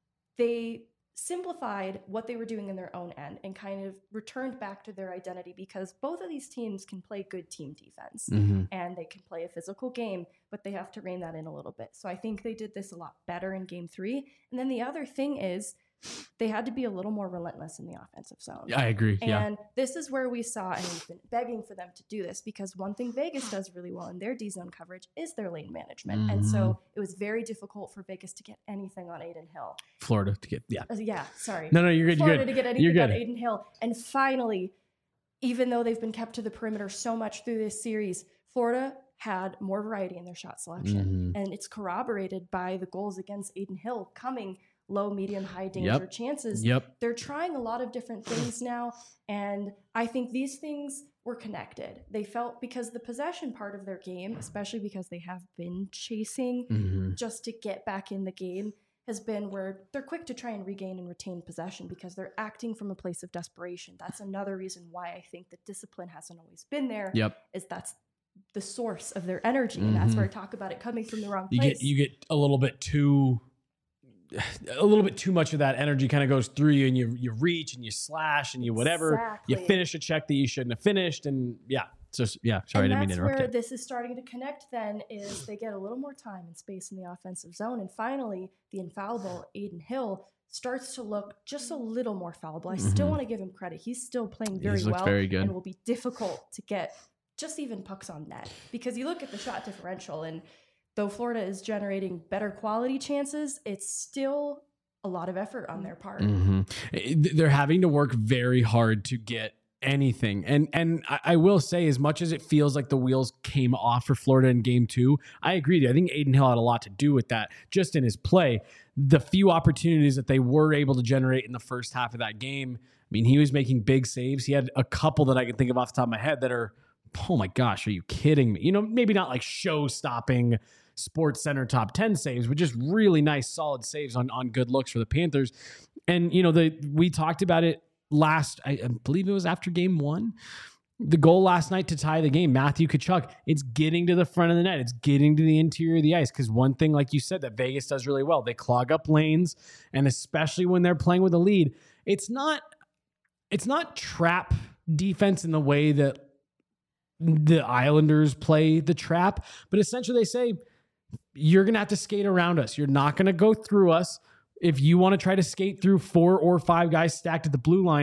they simplified what they were doing in their own end and kind of returned back to their identity, because both of these teams can play good team defense mm-hmm. and they can play a physical game, but they have to rein that in a little bit. So I think they did this a lot better in game three. And then the other thing is, they had to be a little more relentless in the offensive zone. I agree. And yeah. this is where we saw, and we've been begging for them to do this, because one thing Vegas does really well in their D-zone coverage is their lane management. Mm-hmm. And so it was very difficult for Vegas to get anything on Adin Hill. Florida to get, yeah. Uh, yeah, sorry. No, no, you're good. Florida you're good. to get anything you're good. on Adin Hill. And finally, even though they've been kept to the perimeter so much through this series, Florida had more variety in their shot selection. Mm-hmm. And it's corroborated by the goals against Adin Hill coming low, medium, high danger yep. chances. Yep. They're trying a lot of different things now. And I think these things were connected. They felt, because the possession part of their game, especially because they have been chasing mm-hmm. just to get back in the game, has been where they're quick to try and regain and retain possession because they're acting from a place of desperation. That's another reason why I think that discipline hasn't always been there. Yep. Is that's the source of their energy. Mm-hmm. And that's where I talk about it coming from the wrong you place. Get, you get a little bit too... a little bit too much of that energy kind of goes through you, and you you reach and you slash and you whatever. Exactly. You finish a check that you shouldn't have finished, and yeah. So yeah, sorry, and I didn't mean to interrupt that's where you. This is starting to connect then is they get a little more time and space in the offensive zone, and finally the infallible Adin Hill starts to look just a little more fallible. I mm-hmm. still want to give him credit. He's still playing very He's well very good. And will be difficult to get just even pucks on net, because you look at the shot differential, and though Florida is generating better quality chances, it's still a lot of effort on their part. Mm-hmm. They're having to work very hard to get anything. And and I, I will say, as much as it feels like the wheels came off for Florida in game two, I agree with you. I think Adin Hill had a lot to do with that, just in his play. The few opportunities that they were able to generate in the first half of that game, I mean, he was making big saves. He had a couple that I can think of off the top of my head that are, oh my gosh, are you kidding me? You know, maybe not like show-stopping Sports Center top ten saves, but just really nice, solid saves on, on good looks for the Panthers. And, you know, the we talked about it last, I, I believe it was after game one, the goal last night to tie the game, Matthew Tkachuk, it's getting to the front of the net. It's getting to the interior of the ice. Because one thing, like you said, that Vegas does really well, they clog up lanes. And especially when they're playing with a lead, it's not, it's not trap defense in the way that the Islanders play the trap. But essentially they say, you're going to have to skate around us. You're not going to go through us. If you want to try to skate through four or five guys stacked at the blue line,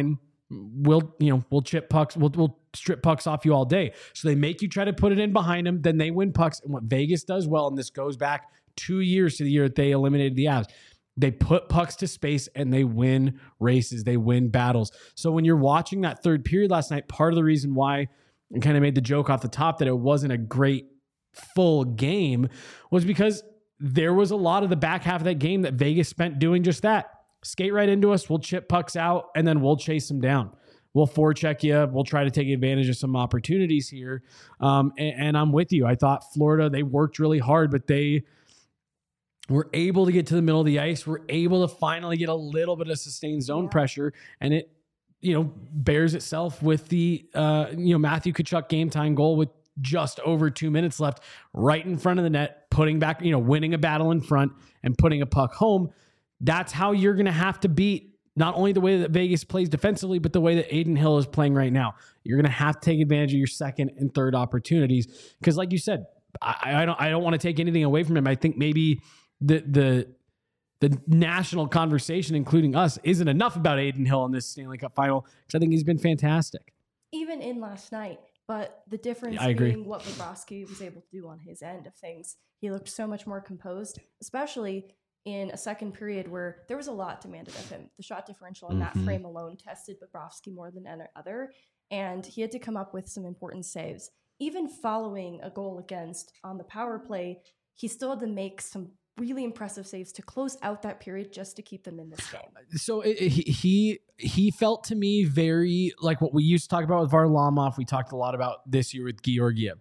we'll, you know, we'll chip pucks, we'll, we'll strip pucks off you all day. So they make you try to put it in behind them. Then they win pucks. And what Vegas does well, and this goes back two years to the year that they eliminated the Avs, they put pucks to space and they win races. They win battles. So when you're watching that third period last night, part of the reason why I kind of made the joke off the top that it wasn't a great full game was because there was a lot of the back half of that game that Vegas spent doing just that. Skate right into us, we'll chip pucks out, and then we'll chase them down. We'll forecheck you. We'll try to take advantage of some opportunities here. Um, and, and I'm with you. I thought Florida, they worked really hard, but they were able to get to the middle of the ice. We're able to finally get a little bit of sustained zone Yeah. pressure, and it, you know, bears itself with the, uh, you know, Matthew Tkachuk game time goal with just over two minutes left, right in front of the net, putting back, you know, winning a battle in front and putting a puck home. That's how you're going to have to beat not only the way that Vegas plays defensively, but the way that Adin Hill is playing right now. You're going to have to take advantage of your second and third opportunities. Because like you said, I, I don't, I don't want to take anything away from him. I think maybe the, the, the national conversation, including us, isn't enough about Adin Hill in this Stanley Cup final, because I think he's been fantastic. Even in last night, but the difference I agree. being what Bobrovsky was able to do on his end of things. He looked so much more composed, especially in a second period where there was a lot demanded of him. The shot differential in Mm-hmm. that frame alone tested Bobrovsky more than any other, and he had to come up with some important saves. Even following a goal against on the power play, he still had to make some really impressive saves to close out that period just to keep them in this game. So it, he he he felt to me very like what we used to talk about with Varlamov. We talked a lot about this year with Georgiev.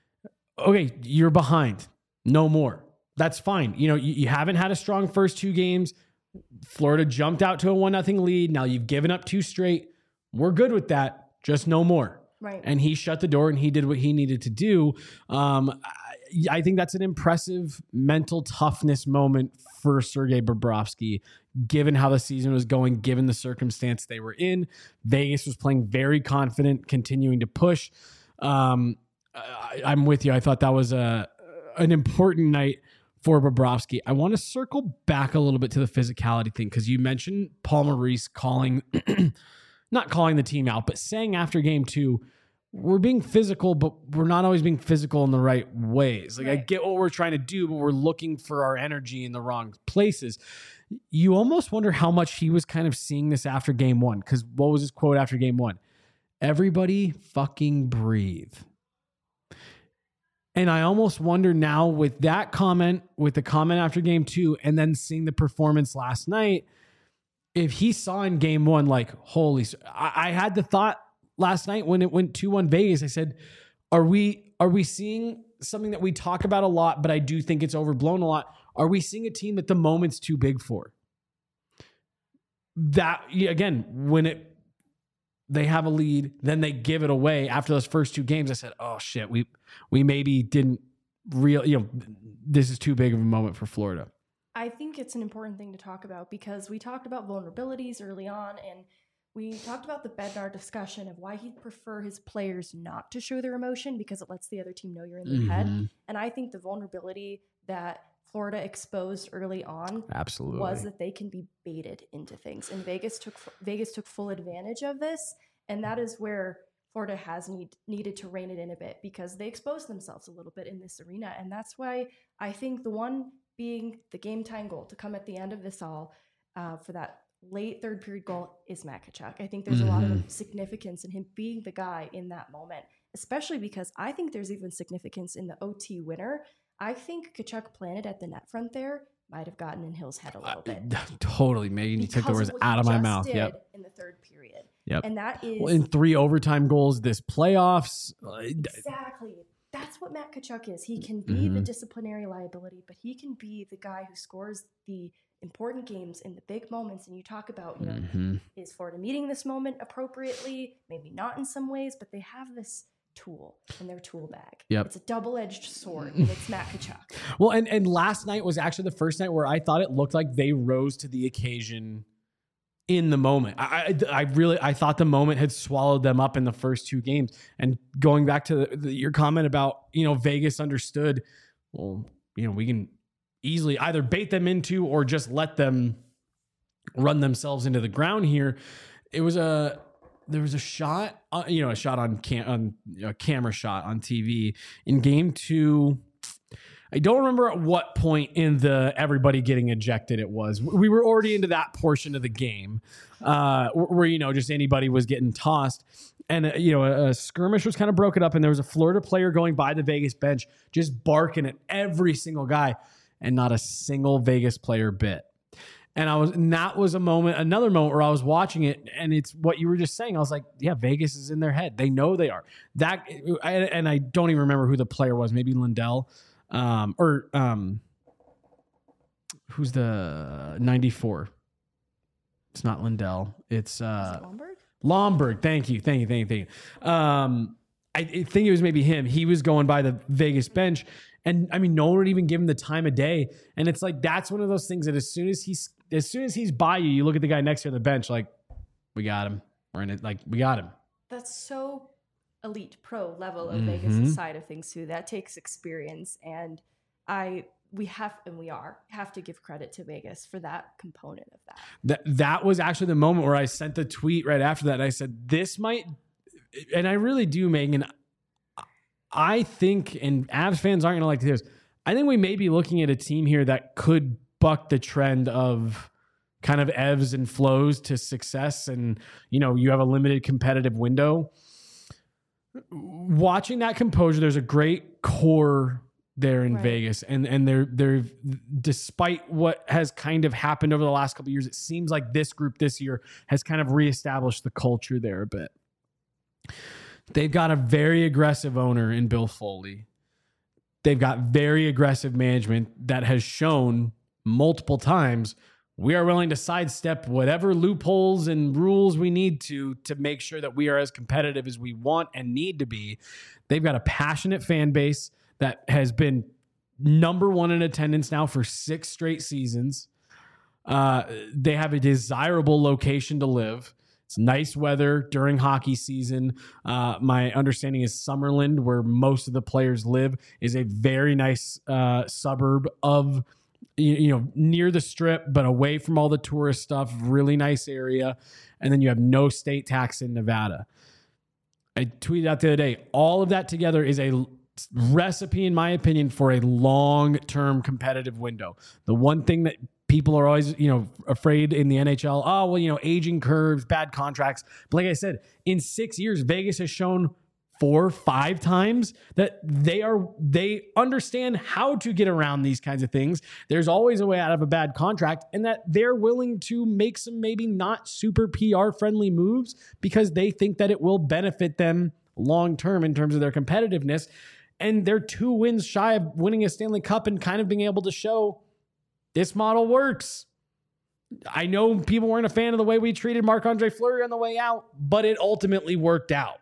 Okay, you're behind. No more. That's fine. You know, you, you haven't had a strong first two games. Florida jumped out to a one nothing lead. Now you've given up two straight. We're good with that. Just no more. Right. And he shut the door and he did what he needed to do. Um, I, I think that's an impressive mental toughness moment for Sergei Bobrovsky, given how the season was going, given the circumstance they were in. Vegas was playing very confident, continuing to push. Um, I, I'm with you. I thought that was a an important night for Bobrovsky. I want to circle back a little bit to the physicality thing, because you mentioned Paul Maurice calling, not calling the team out, but saying after game two, we're being physical, but we're not always being physical in the right ways. Like, right. I get what we're trying to do, but we're looking for our energy in the wrong places. You almost wonder how much he was kind of seeing this after game one, because what was his quote after game one? Everybody fucking breathe. And I almost wonder now with that comment, with the comment after game two, and then seeing the performance last night, if he saw in game one, like, holy, I, I had the thought last night when it went two one Vegas, I said, are we, are we seeing something that we talk about a lot, but I do think it's overblown a lot? Are we seeing a team that the moment's too big for? That, again, when it, they have a lead, then they give it away after those first two games. I said, oh shit, we we maybe didn't real, you know, this is too big of a moment for Florida. I think it's an important thing to talk about, because we talked about vulnerabilities early on, and we talked about the Bednar discussion of why he'd prefer his players not to show their emotion because it lets the other team know you're in their mm-hmm. head. And I think the vulnerability that Florida exposed early on absolutely was that they can be baited into things, and Vegas took Vegas took full advantage of this, and that is where Florida has need, needed to rein it in a bit, because they exposed themselves a little bit in this arena. And that's why I think the one being the game time goal to come at the end of this all uh, for that late third period goal is Matt Tkachuk. I think there's mm-hmm. a lot of significance in him being the guy in that moment, especially because I think there's even significance in the O T winner. I think Tkachuk planted at the net front there might have gotten in Hill's head a little bit. Uh, totally. Maybe you took the words out of my mouth. Yep. In the third period. Yep. And that is well, in three overtime goals this playoffs. Exactly. That's what Matt Tkachuk is. He can be mm-hmm. the disciplinary liability, but he can be the guy who scores the important games in the big moments. And you talk about, you know, mm-hmm. is Florida meeting this moment appropriately? Maybe not in some ways, but they have this tool in their tool bag. Yep. It's a double-edged sword, and it's Matt Tkachuk. Well, and, and last night was actually the first night where I thought it looked like they rose to the occasion in the moment. I, I, I really, I thought the moment had swallowed them up in the first two games. And going back to the, the, your comment about, you know, Vegas understood, well, you know, we can easily either bait them into or just let them run themselves into the ground here. It was a, there was a shot, uh, you know, a shot on cam, on a camera shot on T V in game two. I don't remember at what point in the everybody getting ejected it was. We were already into that portion of the game uh, where, you know, just anybody was getting tossed. And, uh, you know, a, a skirmish was kind of broken up and there was a Florida player going by the Vegas bench, just barking at every single guy and not a single Vegas player bit. And I was, and that was a moment, another moment where I was watching it and it's what you were just saying. I was like, yeah, Vegas is in their head. They know they are that. I, and I don't even remember who the player was, maybe Lindell. Um, or um, who's the ninety-four? It's not Lindell. It's uh, it Lomberg. Lomberg. Thank you. Thank you. Thank you. Thank you. Um, I, I think it was maybe him. He was going by the Vegas bench. And I mean, no one would even give him the time of day. And it's like, that's one of those things that as soon as he's, as soon as he's by you, you look at the guy next to you on the bench, like, we got him. We're in it. Like, we got him. That's so elite pro level of Mm-hmm. Vegas side of things too. That takes experience, and I we have and we are have to give credit to Vegas for that component of that. That that was actually the moment where I sent the tweet right after that. And I said, this might, and I really do, Megan. I think, and Avs fans aren't going to like this, I think we may be looking at a team here that could buck the trend of kind of ebbs and flows to success. And, you know, you have a limited competitive window. Watching that composure, there's a great core there in Right. Vegas, and and they're they're despite what has kind of happened over the last couple of years, it seems like this group this year has kind of reestablished the culture there a bit. They've got a very aggressive owner in Bill Foley. They've got very aggressive management that has shown multiple times we are willing to sidestep whatever loopholes and rules we need to to make sure that we are as competitive as we want and need to be. They've got a passionate fan base that has been number one in attendance now for six straight seasons. Uh, they have a desirable location to live. It's nice weather during hockey season. Uh, my understanding is Summerlin, where most of the players live, is a very nice uh, suburb of You, you know, near the strip, but away from all the tourist stuff, really nice area. And then you have no state tax in Nevada. I tweeted out the other day, all of that together is a recipe, in my opinion, for a long-term competitive window. The one thing that people are always, you know, afraid in the N H L, oh, well, you know, aging curves, bad contracts. But like I said, in six years, Vegas has shown four, five times that they are, they understand how to get around these kinds of things. There's always a way out of a bad contract, and that they're willing to make some maybe not super P R friendly moves because they think that it will benefit them long-term in terms of their competitiveness. And they're two wins shy of winning a Stanley Cup and kind of being able to show this model works. I know people weren't a fan of the way we treated Marc-Andre Fleury on the way out, but it ultimately worked out.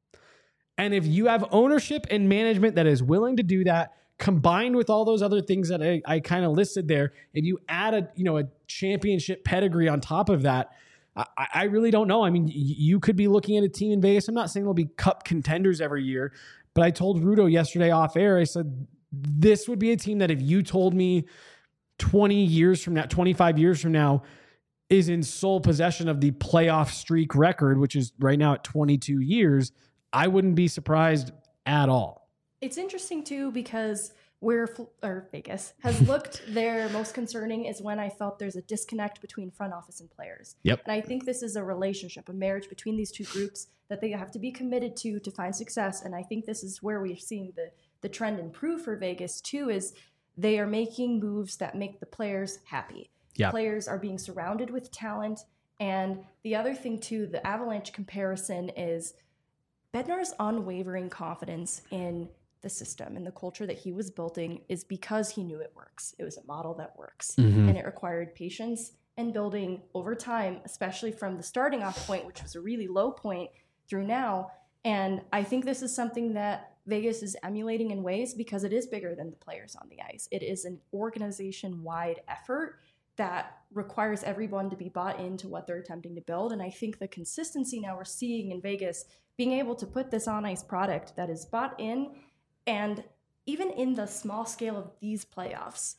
And if you have ownership and management that is willing to do that, combined with all those other things that I, I kind of listed there, if you add a, you know, a championship pedigree on top of that, I, I really don't know. I mean, you could be looking at a team in Vegas. I'm not saying they'll be cup contenders every year, but I told Rudo yesterday off air, I said, this would be a team that if you told me twenty years from now, twenty-five years from now, is in sole possession of the playoff streak record, which is right now at twenty-two years, I wouldn't be surprised at all. It's interesting too, because where or Vegas has looked their most concerning is when I felt there's a disconnect between front office and players. Yep. And I think this is a relationship, a marriage between these two groups that they have to be committed to to find success. And I think this is where we're seeing the the trend improve for Vegas too, is they are making moves that make the players happy. Yep. Players are being surrounded with talent. And the other thing too, the Avalanche comparison is Bednar's unwavering confidence in the system and the culture that he was building is because he knew it works. It was a model that works. Mm-hmm. And it required patience and building over time, especially from the starting off point, which was a really low point, through now. And I think this is something that Vegas is emulating in ways because it is bigger than the players on the ice. It is an organization-wide effort that requires everyone to be bought into what they're attempting to build. And I think the consistency now we're seeing in Vegas, being able to put this on ice product that is bought in, and even in the small scale of these playoffs,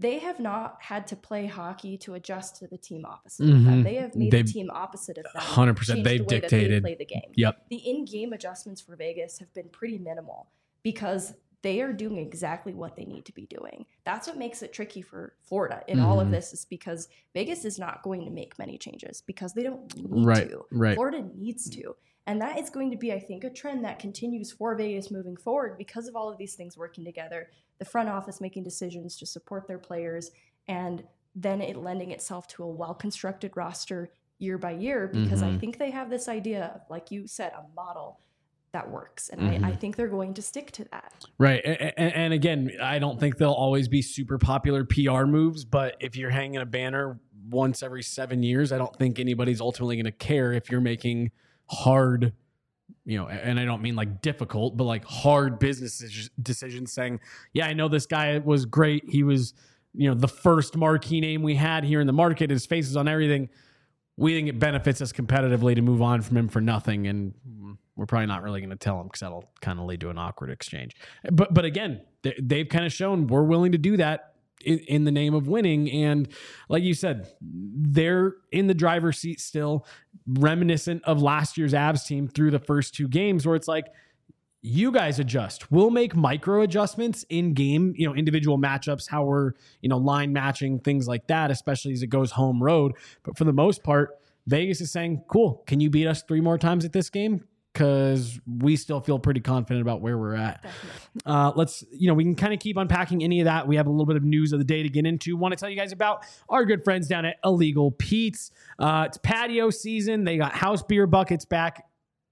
they have not had to play hockey to adjust to the team opposite mm-hmm. of them. They have made they've, the team opposite of them. one hundred percent. They've the dictated. They play the game. Yep. The in-game adjustments for Vegas have been pretty minimal because they are doing exactly what they need to be doing. That's what makes it tricky for Florida in mm-hmm. all of this, is because Vegas is not going to make many changes because they don't need right, to. Right. Florida needs to. And that is going to be, I think, a trend that continues for Vegas moving forward because of all of these things working together, the front office making decisions to support their players, and then it lending itself to a well-constructed roster year by year, because mm-hmm. I think they have this idea of, like you said, a model that works. And mm-hmm. I, I think they're going to stick to that. Right. And, and again, I don't think they'll always be super popular P R moves, but if you're hanging a banner once every seven years, I don't think anybody's ultimately going to care if you're making hard, you know, and I don't mean like difficult, but like hard business decisions saying, yeah, I know this guy was great. He was, you know, the first marquee name we had here in the market. His face is on everything. We think it benefits us competitively to move on from him for nothing. And we're probably not really going to tell him because that'll kind of lead to an awkward exchange. But, but again, they, they've kind of shown we're willing to do that in, in the name of winning. And like you said, they're in the driver's seat still, reminiscent of last year's Avs team through the first two games, where it's like, you guys adjust. We'll make micro adjustments in game, you know, individual matchups, how we're, you know, line matching, things like that, especially as it goes home road. But for the most part, Vegas is saying, cool, can you beat us three more times at this game? Because we still feel pretty confident about where we're at. Uh, let's, you know, we can kind of keep unpacking any of that. We have a little bit of news of the day to get into. Want to tell you guys about our good friends down at Illegal Pete's. Uh, it's patio season. They got house beer buckets back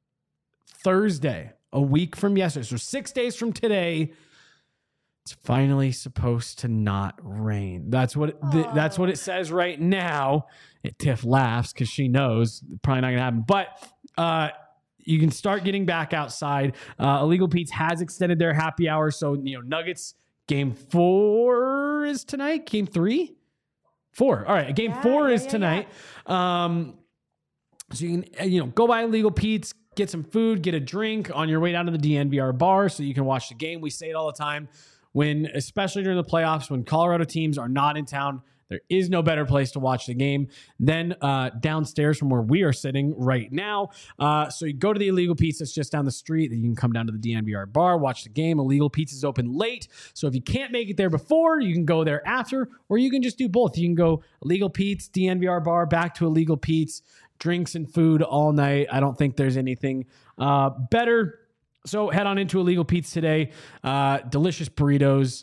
Thursday, a week from yesterday. So six days from today, it's finally supposed to not rain. That's what the, that's what it says right now. And Tiff laughs because she knows probably not going to happen. But uh, you can start getting back outside. Uh, Illegal Pete's has extended their happy hour. So, you know, Nuggets game four is tonight. Game three? Four. All right. Game yeah, four yeah, is yeah, tonight. Yeah. Um, so you can, you know, go by Illegal Pete's, get some food, get a drink on your way down to the D N V R bar so you can watch the game. We say it all the time. When, especially during the playoffs, when Colorado teams are not in town, there is no better place to watch the game than uh, downstairs from where we are sitting right now. Uh, so you go to the Illegal Pete's that's just down the street. You can come down to the D N V R bar, watch the game. Illegal Pete's is open late. So if you can't make it there before, you can go there after, or you can just do both. You can go Illegal Pete's, D N V R bar, back to Illegal Pete's, drinks and food all night. I don't think there's anything uh, better. So head on into Illegal Pete's today. Uh, delicious burritos.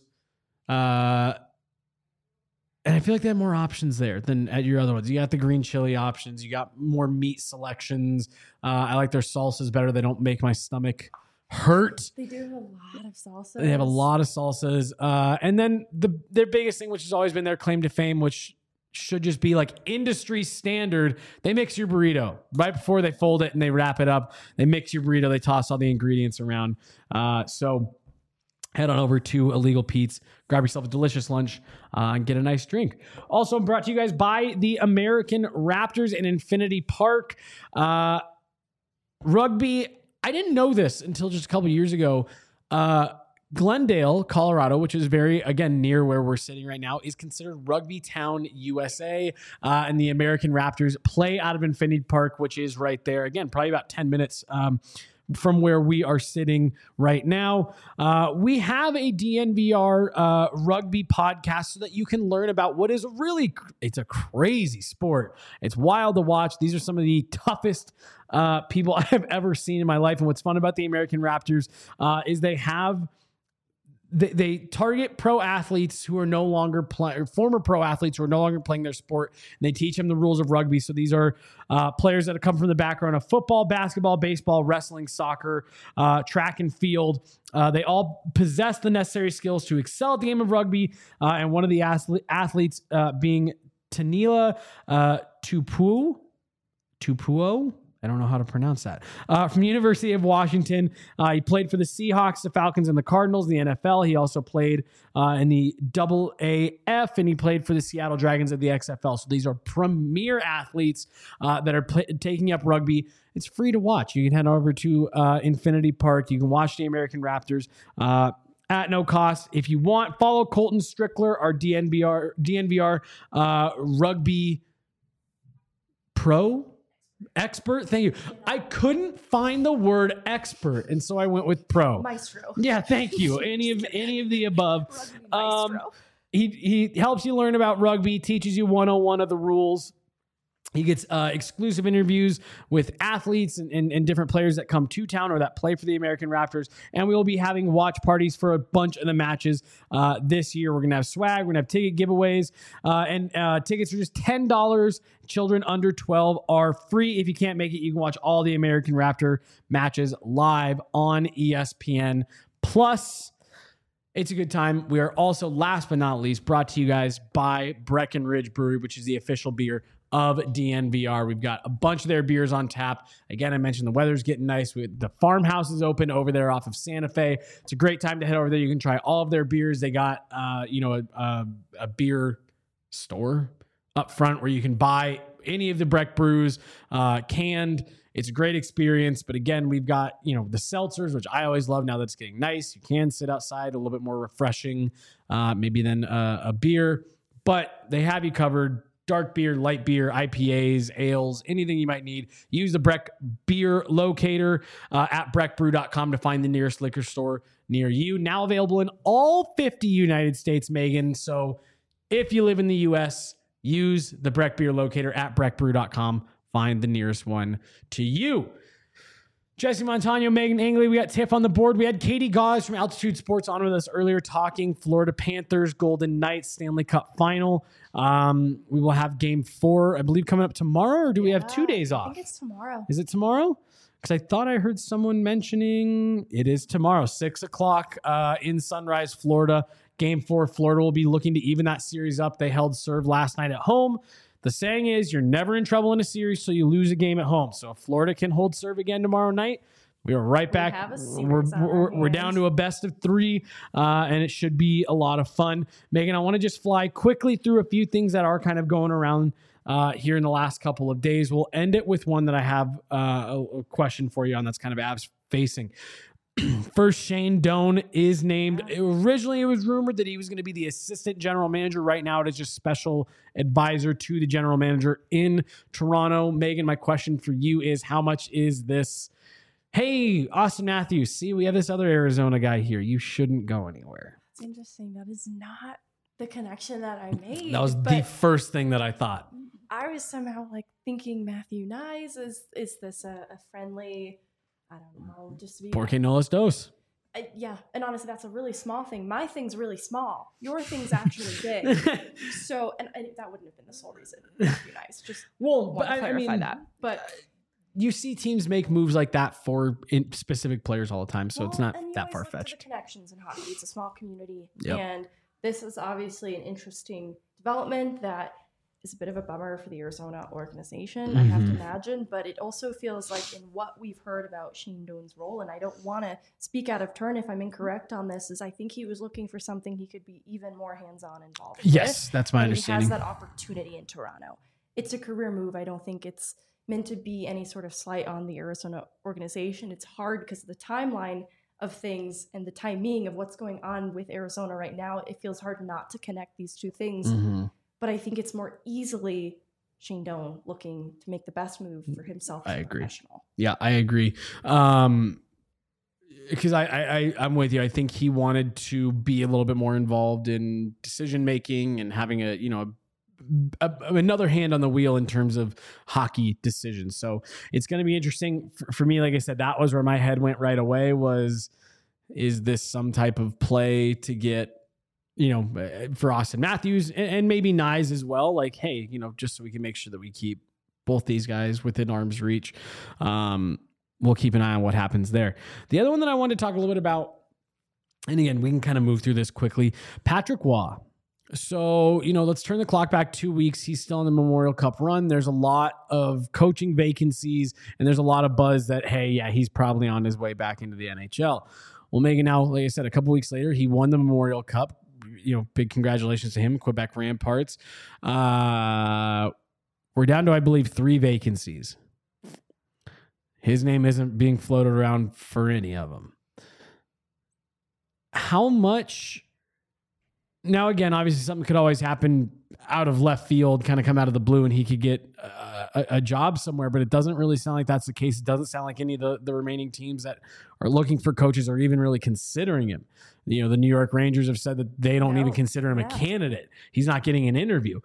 Uh, and I feel like they have more options there than at your other ones. You got the green chili options. You got more meat selections. Uh, I like their salsas better. They don't make my stomach hurt. They do have a lot of salsas. They have a lot of salsas. Uh, and then the their biggest thing, which has always been their claim to fame, which should just be like industry standard. They mix your burrito right before they fold it and they wrap it up. They mix your burrito. They toss all the ingredients around. Uh, so head on over to Illegal Pete's, grab yourself a delicious lunch, uh, and get a nice drink. Also brought to you guys by the American Raptors in Infinity Park. Uh, rugby, I didn't know this until just a couple years ago. Uh, Glendale, Colorado, which is very, again, near where we're sitting right now, is considered Rugby Town, U S A. Uh, and the American Raptors play out of Infinity Park, which is right there. Again, probably about ten minutes um, from where we are sitting right now. Uh, we have a D N V R uh, rugby podcast so that you can learn about what is really, it's a crazy sport. It's wild to watch. These are some of the toughest uh, people I have ever seen in my life. And what's fun about the American Raptors uh, is they have They, they target pro athletes who are no longer playing, former pro athletes who are no longer playing their sport, and they teach them the rules of rugby. So these are uh, players that have come from the background of football, basketball, baseball, wrestling, soccer, uh, track and field. Uh, they all possess the necessary skills to excel at the game of rugby. Uh, and one of the athlete, athletes uh, being Tanila uh, Tupuo, Tupuo. I don't know how to pronounce that. Uh, from the University of Washington. Uh, he played for the Seahawks, the Falcons, and the Cardinals in the N F L. He also played uh, in the double A F, and he played for the Seattle Dragons of the X F L. So these are premier athletes uh, that are play- taking up rugby. It's free to watch. You can head over to uh, Infinity Park. You can watch the American Raptors. Uh, at no cost. If you want, follow Colton Strickler, our D N V R, D N V R uh, rugby pro expert. Thank you. I couldn't find the word expert, and so I went with pro. Maestro. Yeah, thank you. Any of any of the above. Rugby Um, maestro. he he helps you learn about rugby, teaches you one oh one of the rules. He gets uh, exclusive interviews with athletes and, and, and different players that come to town or that play for the American Raptors. And we will be having watch parties for a bunch of the matches uh, this year. We're going to have swag. We're going to have ticket giveaways. Uh, and uh, tickets are just ten dollars. Children under twelve are free. If you can't make it, you can watch all the American Raptor matches live on E S P N Plus. It's a good time. We are also, last but not least, brought to you guys by Breckenridge Brewery, which is the official beer of D N V R. We've got a bunch of their beers on tap. Again, I mentioned the weather's getting nice. We, the farmhouse is open over there off of Santa Fe. It's a great time to head over there. You can try all of their beers. They got, uh, you know, a, a, a beer store up front where you can buy any of the Breck brews uh, canned. It's a great experience. But again, we've got, you know, the seltzers, which I always love now that it's getting nice. You can sit outside, a little bit more refreshing, uh, maybe than a, a beer. But they have you covered. Dark beer, light beer, I P As, ales, anything you might need. Use the Breck Beer Locator uh, at breck brew dot com to find the nearest liquor store near you. Now available in all fifty United States, Megan. So if you live in the U S, use the Breck Beer Locator at breck brew dot com. Find the nearest one to you. Jesse Montano, Megan Angley, we got Tiff on the board. We had Katie Gauze from Altitude Sports on with us earlier talking Florida Panthers, Golden Knights, Stanley Cup Final. Um, we will have game four, I believe, coming up tomorrow, or do we Yeah, have two days off? I think it's tomorrow. Is it tomorrow? Because I thought I heard someone mentioning it is tomorrow, six o'clock uh, in Sunrise, Florida. Game four, Florida will be looking to even that series up. They held serve last night at home. The saying is you're never in trouble in a series, so you lose a game at home. So if Florida can hold serve again tomorrow night, we are right back. have a series we're on our we're, we're hands. down to a best of three, uh, and it should be a lot of fun. Megan, I want to just fly quickly through a few things that are kind of going around uh, here in the last couple of days. We'll end it with one that I have uh, a, a question for you on that's kind of abs facing. First, Shane Doan is named. Originally, it was rumored that he was going to be the assistant general manager. Right now, it is just special advisor to the general manager in Toronto. Megan, my question for you is, how much is this? Hey, Austin Matthews, see, we have this other Arizona guy here. You shouldn't go anywhere. It's interesting. That is not the connection that I made. That was but the first thing that I thought. I was somehow like thinking Matthew Nyes. Is is this a, a friendly? I don't know. Just to be Porque no los dos. I, yeah, and honestly, that's a really small thing. My thing's really small. Your thing's actually big. So, and, and that wouldn't have been the sole reason. Matthew Nyes. Just Well, want but to I, I clarify mean, that. But you see teams make moves like that for in specific players all the time, so well, it's not and you that always far look to fetched. the connections in hockey. It's a small community, Yep. and this is obviously an interesting development that is a bit of a bummer for the Arizona organization, I have to Mhm. imagine, but it also feels like in what we've heard about Shane Doan's role, and I don't want to speak out of turn if I'm incorrect on this, is I think he was looking for something he could be even more hands-on involved Yes, with, that's my and understanding. he has that opportunity in Toronto. It's a career move. I don't think it's meant to be any sort of slight on the Arizona organization. It's hard because of the timeline of things and the timing of what's going on with Arizona right now. It feels hard not to connect these two things. Mhm. But I think it's more easily Shane Doan looking to make the best move for himself as I a agree. professional. Yeah, I agree. Um, because I, I, I, I'm with you. I think he wanted to be a little bit more involved in decision making and having a, you know, a, a, another hand on the wheel in terms of hockey decisions. So it's going to be interesting for, for me. Like I said, that was where my head went right away. Was, is this some type of play to get, you know, for Austin Matthews and, and maybe Nyes as well? Like, hey, you know, just so we can make sure that we keep both these guys within arm's reach. Um, we'll keep an eye on what happens there. The other one that I wanted to talk a little bit about, and again, we can kind of move through this quickly. Patrick Waugh. So, you know, let's turn the clock back two weeks. He's still in the Memorial Cup run. There's a lot of coaching vacancies, and there's a lot of buzz that, hey, yeah, he's probably on his way back into the N H L. Well, Megan, now, like I said, a couple weeks later, he won the Memorial Cup. You know, big congratulations to him, Quebec Ramparts. Uh, we're down to, I believe, three vacancies. His name isn't being floated around for any of them. how much now, again, obviously something could always happen out of left field, kind of come out of the blue, and he could get uh, a, a job somewhere, but it doesn't really sound like that's the case. It doesn't sound like any of the, the remaining teams that are looking for coaches are even really considering him. You know, the New York Rangers have said that they don't No. even consider him Yeah. a candidate. He's not getting an interview.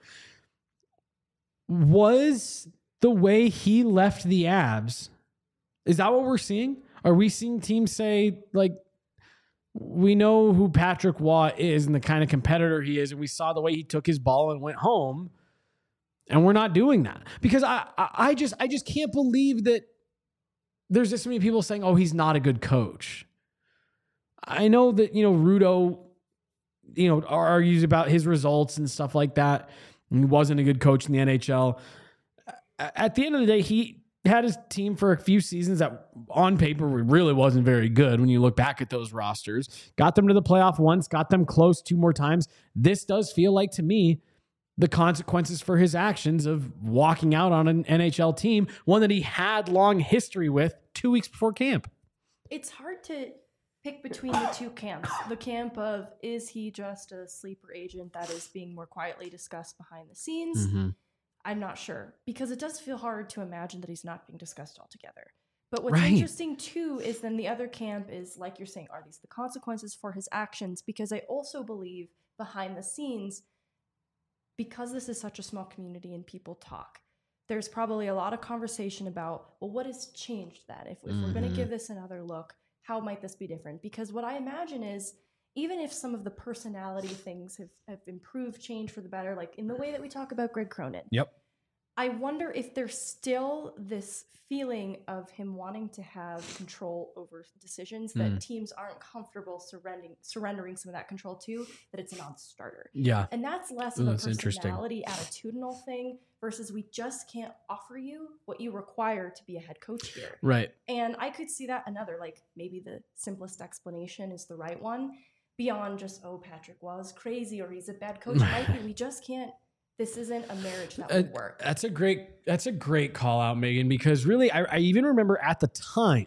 Was the way he left the Avs, is that what we're seeing? Are we seeing teams say, like, we know who Patrick Waugh is and the kind of competitor he is, and we saw the way he took his ball and went home, and we're not doing that? Because I, I, I just, I just can't believe that there's just so many people saying, "Oh, he's not a good coach." I know that, you know, Rudo, you know, argues about his results and stuff like that. And he wasn't a good coach in the N H L. At the end of the day, he had his team for a few seasons that on paper really wasn't very good when you look back at those rosters. Got them to the playoff once, got them close two more times. This does feel like, to me, the consequences for his actions of walking out on an N H L team, one that he had long history with two weeks before camp. It's hard to pick between the two camps. The camp of, is he just a sleeper agent that is being more quietly discussed behind the scenes? Mm-hmm. I'm not sure, because it does feel hard to imagine that he's not being discussed altogether. But what's Right. interesting too is then the other camp is, like you're saying, are these the consequences for his actions? Because I also believe behind the scenes, because this is such a small community and people talk, there's probably a lot of conversation about, well, what has changed then? If, if Mm-hmm. we're going to give this another look, how might this be different? Because what I imagine is, even if some of the personality things have, have improved, changed for the better, like in the way that we talk about Greg Cronin, Yep. I wonder if there's still this feeling of him wanting to have control over decisions that Mm. teams aren't comfortable surrendering surrendering some of that control to, that it's a non-starter. Yeah. And that's less Ooh, of a that's interesting. personality, attitudinal thing versus we just can't offer you what you require to be a head coach here. Right. And I could see that another, like maybe the simplest explanation is the right one, beyond just, oh, Patrick was crazy or he's a bad coach. It might be we just can't, this isn't a marriage that would Uh, work. That's a great, that's a great call out, Megan, because really, I, I even remember at the time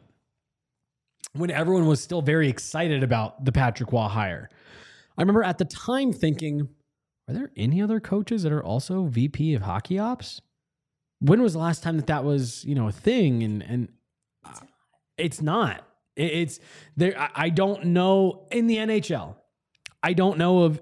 when everyone was still very excited about the Patrick Waugh hire. I remember at the time thinking, are there any other coaches that are also V P of hockey ops? When was the last time that that was, you know, a thing? And, and uh, it's not. It- It's there. I- I don't know in the N H L. I don't know of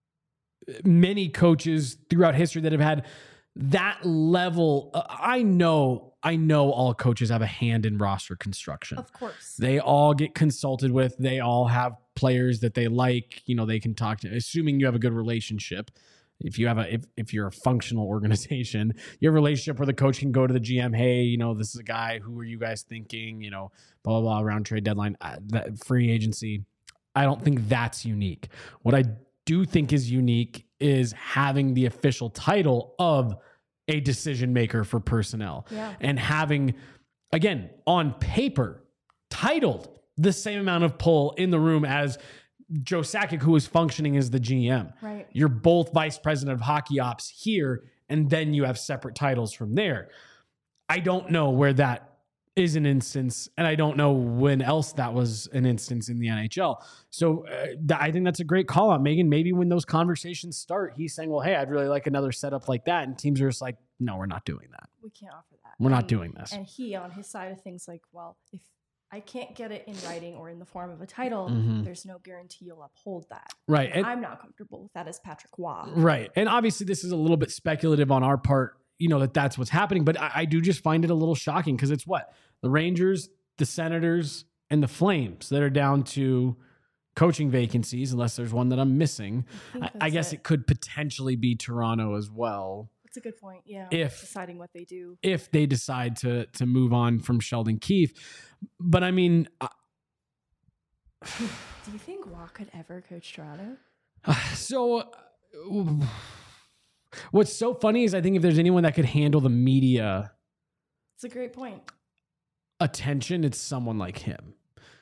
many coaches throughout history that have had that level. Uh, I know, I know all coaches have a hand in roster construction. Of course. They all get consulted with. They all have players that they like. You know, they can talk to, assuming you have a good relationship. If you have a, if, if you're a functional organization, you have a relationship where the coach can go to the G M. Hey, you know, this is a guy. Who are you guys thinking? You know, blah, blah, blah, around trade deadline, uh, that free agency. I don't think that's unique. What I do think is unique is having the official title of a decision maker for personnel. Yeah. And having, again, on paper, titled the same amount of pull in the room as Joe Sakic, who is functioning as the G M. Right. You're both vice president of hockey ops here, and then you have separate titles from there. I don't know where that is an instance, and I don't know when else that was an instance in the N H L. So uh, th- I think that's a great call out, Megan. Maybe when those conversations start, he's saying, well, hey, I'd really like another setup like that. And teams are just like, no, we're not doing that. We can't offer that. We're not And- doing this. And he, on his side of things, like, well, if I can't get it in writing or in the form of a title, Mhm. there's no guarantee you'll uphold that. Right. And, I'm not comfortable with that as Patrick Waugh. right. And obviously this is a little bit speculative on our part, you know, that that's what's happening. But I, I do just find it a little shocking because it's what? The Rangers, the Senators, and the Flames that are down to coaching vacancies, unless there's one that I'm missing. I think I, I that's guess it could potentially be Toronto as well, That's a good point. Yeah. If- deciding what they do. if they decide to to move on from Sheldon Keefe. But I mean, uh, Do you think Waugh could ever coach Toronto? so uh, what's so funny is I think if there's anyone that could handle the media It's a great point. attention, it's someone like him.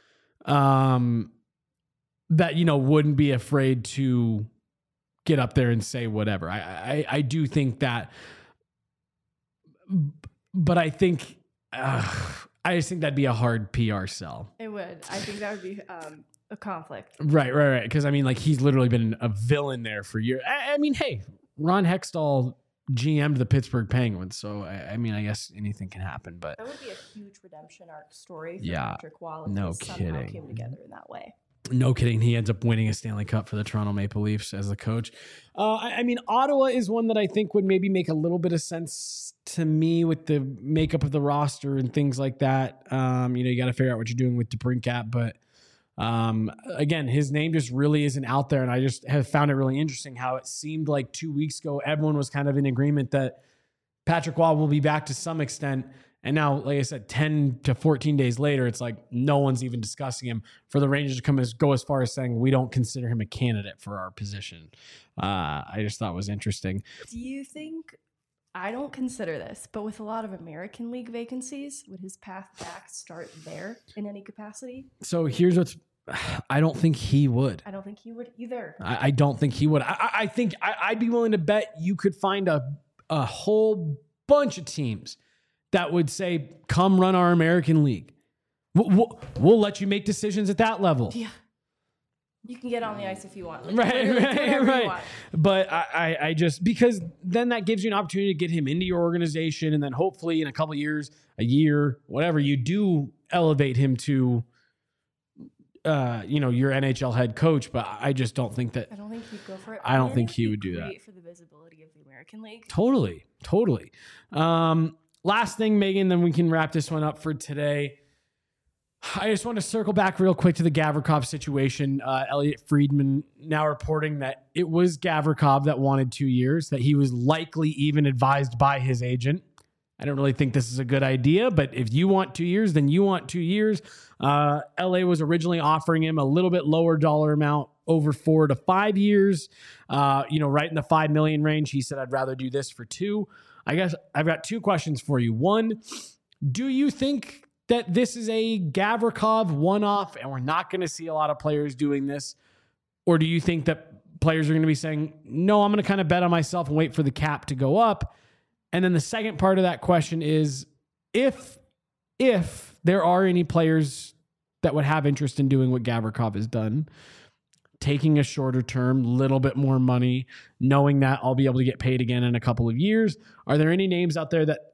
Um, that, you know, wouldn't be afraid to get up there and say whatever. I, I, I do think that, but I think, uh, I just think that'd be a hard P R sell. It would. I think that would be um, a conflict. Right, right, right. Because I mean, like he's literally been a villain there for years. I, I mean, hey, Ron Hextall G M'd the Pittsburgh Penguins, so I, I mean, I guess anything can happen. But that would be a huge redemption arc story for yeah, Patrick Wall if no they somehow kidding. came together in that way. No kidding. He ends up winning a Stanley Cup for the Toronto Maple Leafs as the coach. Uh, I, I mean, Ottawa is one that I think would maybe make a little bit of sense to me with the makeup of the roster and things like that. Um, you know, you got to figure out what you're doing with DeBrincat, but um, again, his name just really isn't out there. And I just have found it really interesting how it seemed like two weeks ago, everyone was kind of in agreement that Patrick Waugh will be back to some extent. And now, like I said, ten to fourteen days later, it's like no one's even discussing him. For the Rangers to come as go as far as saying we don't consider him a candidate for our position, uh, I just thought was interesting. Do you think, I don't consider this, but with a lot of American League vacancies, would his path back start there in any capacity? So here's what's, I don't think he would. I don't think he would either. I, I don't think he would. I, I think I, I'd be willing to bet you could find a a whole bunch of teams that would say, come run our American League. We'll, we'll, we'll let you make decisions at that level. Yeah. You can get on the ice if you want. Like, right, right, right. Want. But I, I, I just, because then that gives you an opportunity to get him into your organization. And then hopefully in a couple of years, a year, whatever, you do elevate him to, uh, you know, your N H L head coach. But I just don't think that. I don't think he'd go for it. I don't and think he would do that. For the visibility of the American League. Totally, totally. Um, Last thing, Megan, then we can wrap this one up for today. I just want to circle back real quick to the Gavrikov situation. Uh, Elliot Friedman now reporting that it was Gavrikov that wanted two years, that he was likely even advised by his agent. I don't really think this is a good idea, but if you want two years, then you want two years. Uh, L A was originally offering him a little bit lower dollar amount over four to five years, uh, you know, right in the five million range. He said, I'd rather do this for two. I guess I've got two questions for you. One, do you think that this is a Gavrikov one-off and we're not going to see a lot of players doing this? Or do you think that players are going to be saying, no, I'm going to kind of bet on myself and wait for the cap to go up? And then the second part of that question is, if, if there are any players that would have interest in doing what Gavrikov has done, taking a shorter term, little bit more money, knowing that I'll be able to get paid again in a couple of years. Are there any names out there that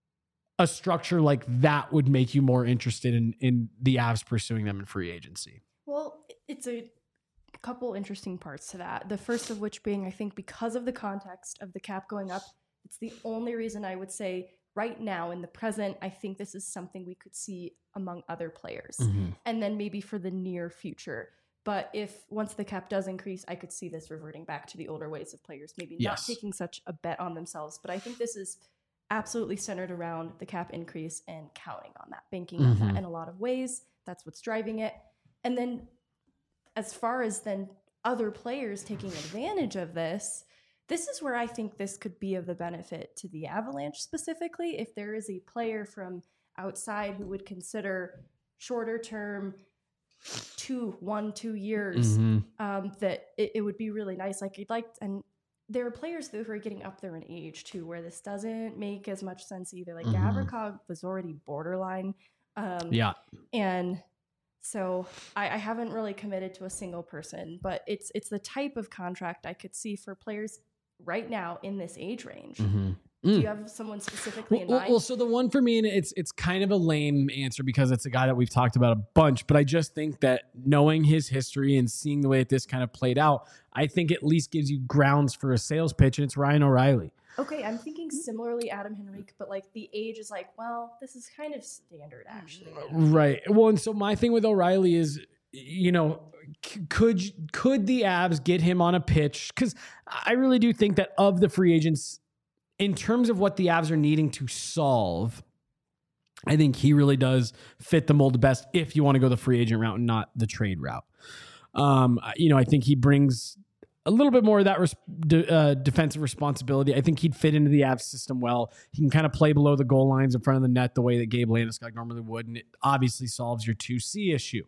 a structure like that would make you more interested in, in the Avs pursuing them in free agency? Well, it's a couple interesting parts to that. The first of which being, I think because of the context of the cap going up, it's the only reason I would say right now in the present, I think this is something we could see among other players. Mm-hmm. And then maybe for the near future. But if once the cap does increase, I could see this reverting back to the older ways of players, maybe yes. not taking such a bet on themselves. But I think this is absolutely centered around the cap increase and counting on that, banking mm-hmm. on that in a lot of ways. That's what's driving it. And then as far as then other players taking advantage of this, this is where I think this could be of the benefit to the Avalanche specifically. If there is a player from outside who would consider shorter term, two, one, two years, mm-hmm. um, that it, it would be really nice. Like you'd like, and there are players who are getting up there in age too, where this doesn't make as much sense either. Like mm-hmm. Gavrikov was already borderline. Um, yeah. And so I, I haven't really committed to a single person, but it's, it's the type of contract I could see for players right now in this age range. Mm-hmm. Do you have someone specifically in well, mind? Well, so the one for me, and it's it's kind of a lame answer because it's a guy that we've talked about a bunch, but I just think that knowing his history and seeing the way that this kind of played out, I think at least gives you grounds for a sales pitch, and it's Ryan O'Reilly. Okay, I'm thinking similarly Adam Henrique, but like the age is like, well, this is kind of standard actually. Right. Well, and so my thing with O'Reilly is, you know, could could the Avs get him on a pitch? Because I really do think that of the free agents, in terms of what the Avs are needing to solve, I think he really does fit the mold the best if you want to go the free agent route and not the trade route. Um, you know, I think he brings a little bit more of that res- de- uh, defensive responsibility. I think he'd fit into the Avs system well. He can kind of play below the goal lines in front of the net the way that Gabe Landeskog normally would, and it obviously solves your two C issue.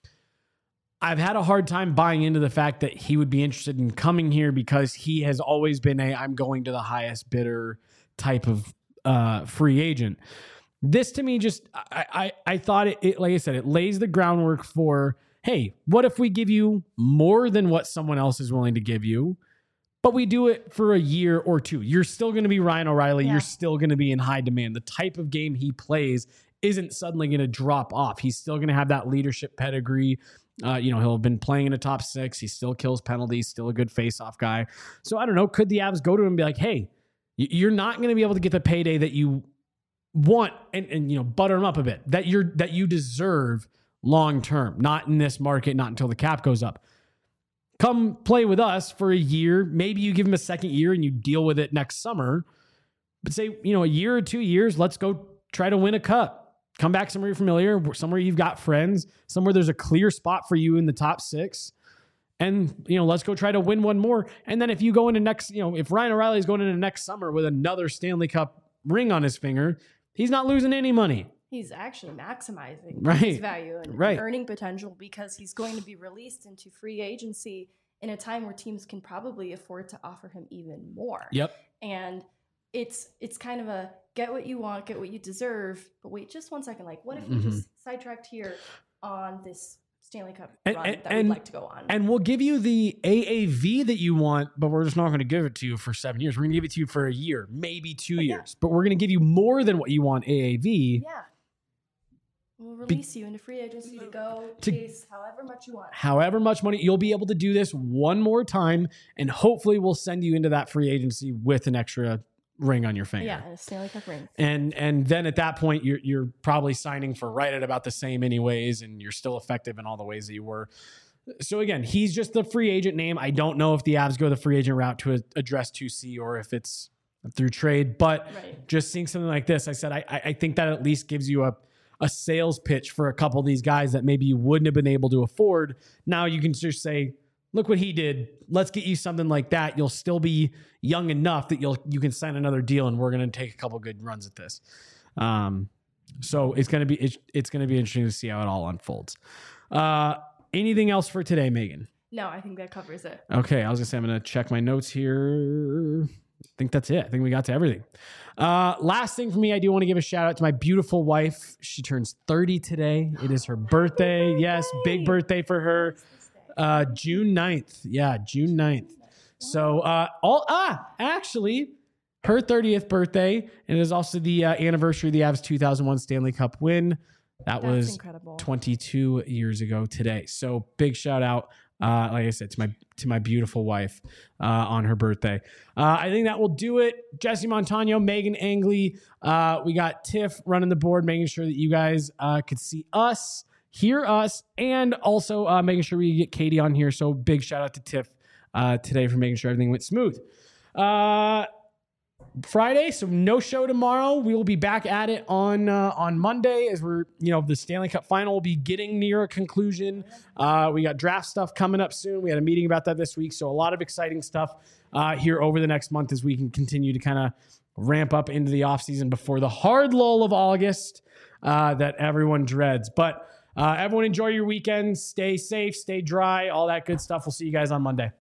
I've had a hard time buying into the fact that he would be interested in coming here because he has always been a I'm going to the highest bidder type of uh, free agent. This to me just, I I, I thought it, it, like I said, it lays the groundwork for hey, what if we give you more than what someone else is willing to give you, but we do it for a year or two? You're still going to be Ryan O'Reilly. Yeah. You're still going to be in high demand. The type of game he plays isn't suddenly going to drop off. He's still going to have that leadership pedigree. Uh, you know, he'll have been playing in a top six. He still kills penalties, still a good face-off guy. So I don't know. Could the Avs go to him and be like, hey, you're not going to be able to get the payday that you want and, and, you know, butter him up a bit, that you're, that you deserve long-term, not in this market, not until the cap goes up. Come play with us for a year. Maybe you give him a second year and you deal with it next summer, but say, you know, a year or two years, let's go try to win a cup. Come back somewhere you're familiar, somewhere you've got friends, somewhere there's a clear spot for you in the top six. And, you know, let's go try to win one more. And then if you go into next, you know, if Ryan O'Reilly is going into next summer with another Stanley Cup ring on his finger, he's not losing any money. He's actually maximizing right. his value and right. earning potential, because he's going to be released into free agency in a time where teams can probably afford to offer him even more. Yep. And it's it's kind of a get what you want, get what you deserve. But wait, just one second. Like, what if we mm-hmm. just sidetracked here on this Stanley Cup and, run and, that and, we'd like to go on? And we'll give you the A A V that you want, but we're just not going to give it to you for seven years. We're going to give it to you for a year, maybe two but years. Yeah. But we're going to give you more than what you want A A V. Yeah. We'll release be, you into free agency to go to, chase however much you want. However much money. You'll be able to do this one more time, and hopefully we'll send you into that free agency with an extra ring on your finger. Yeah, and a Stanley Cup ring. And and then at that point, you're you're probably signing for right at about the same anyways, and you're still effective in all the ways that you were. So again, he's just the free agent name. I don't know if the Avs go the free agent route to address two C or if it's through trade, but right. just seeing something like this, I said, I I think that at least gives you a a sales pitch for a couple of these guys that maybe you wouldn't have been able to afford. Now you can just say, look what he did. Let's get you something like that. You'll still be young enough that you'll, you can sign another deal, and we're going to take a couple good runs at this. Um, so it's going to be, it's, it's going to be interesting to see how it all unfolds. Uh, anything else for today, Megan? No, I think that covers it. Okay. I was gonna say, I'm going to check my notes here. I think that's it. I think we got to everything. Uh, last thing for me, I do want to give a shout out to my beautiful wife. She turns thirty today. It is her birthday. Yes, big birthday for her. Uh, June ninth. Yeah, June ninth. So, uh, all, ah, actually, her thirtieth birthday, and it is also the uh, anniversary of the Avs two thousand one Stanley Cup win. That That's was incredible. twenty-two years ago today. So, big shout out. Uh, like I said, to my to my beautiful wife uh, on her birthday. Uh, I think that will do it. Jesse Montano, Megan Angley. Uh, we got Tiff running the board, making sure that you guys uh, could see us, hear us, and also uh, making sure we get Katie on here. So big shout out to Tiff uh, today for making sure everything went smooth. Uh, Friday, so no show tomorrow. We will be back at it on uh, on Monday, as we're, you know, the Stanley Cup final will be getting near a conclusion. Uh, we got draft stuff coming up soon. We had a meeting about that this week, so a lot of exciting stuff uh, here over the next month as we can continue to kind of ramp up into the offseason before the hard lull of August uh, that everyone dreads. But uh, everyone enjoy your weekend. Stay safe, stay dry, all that good stuff. We'll see you guys on Monday.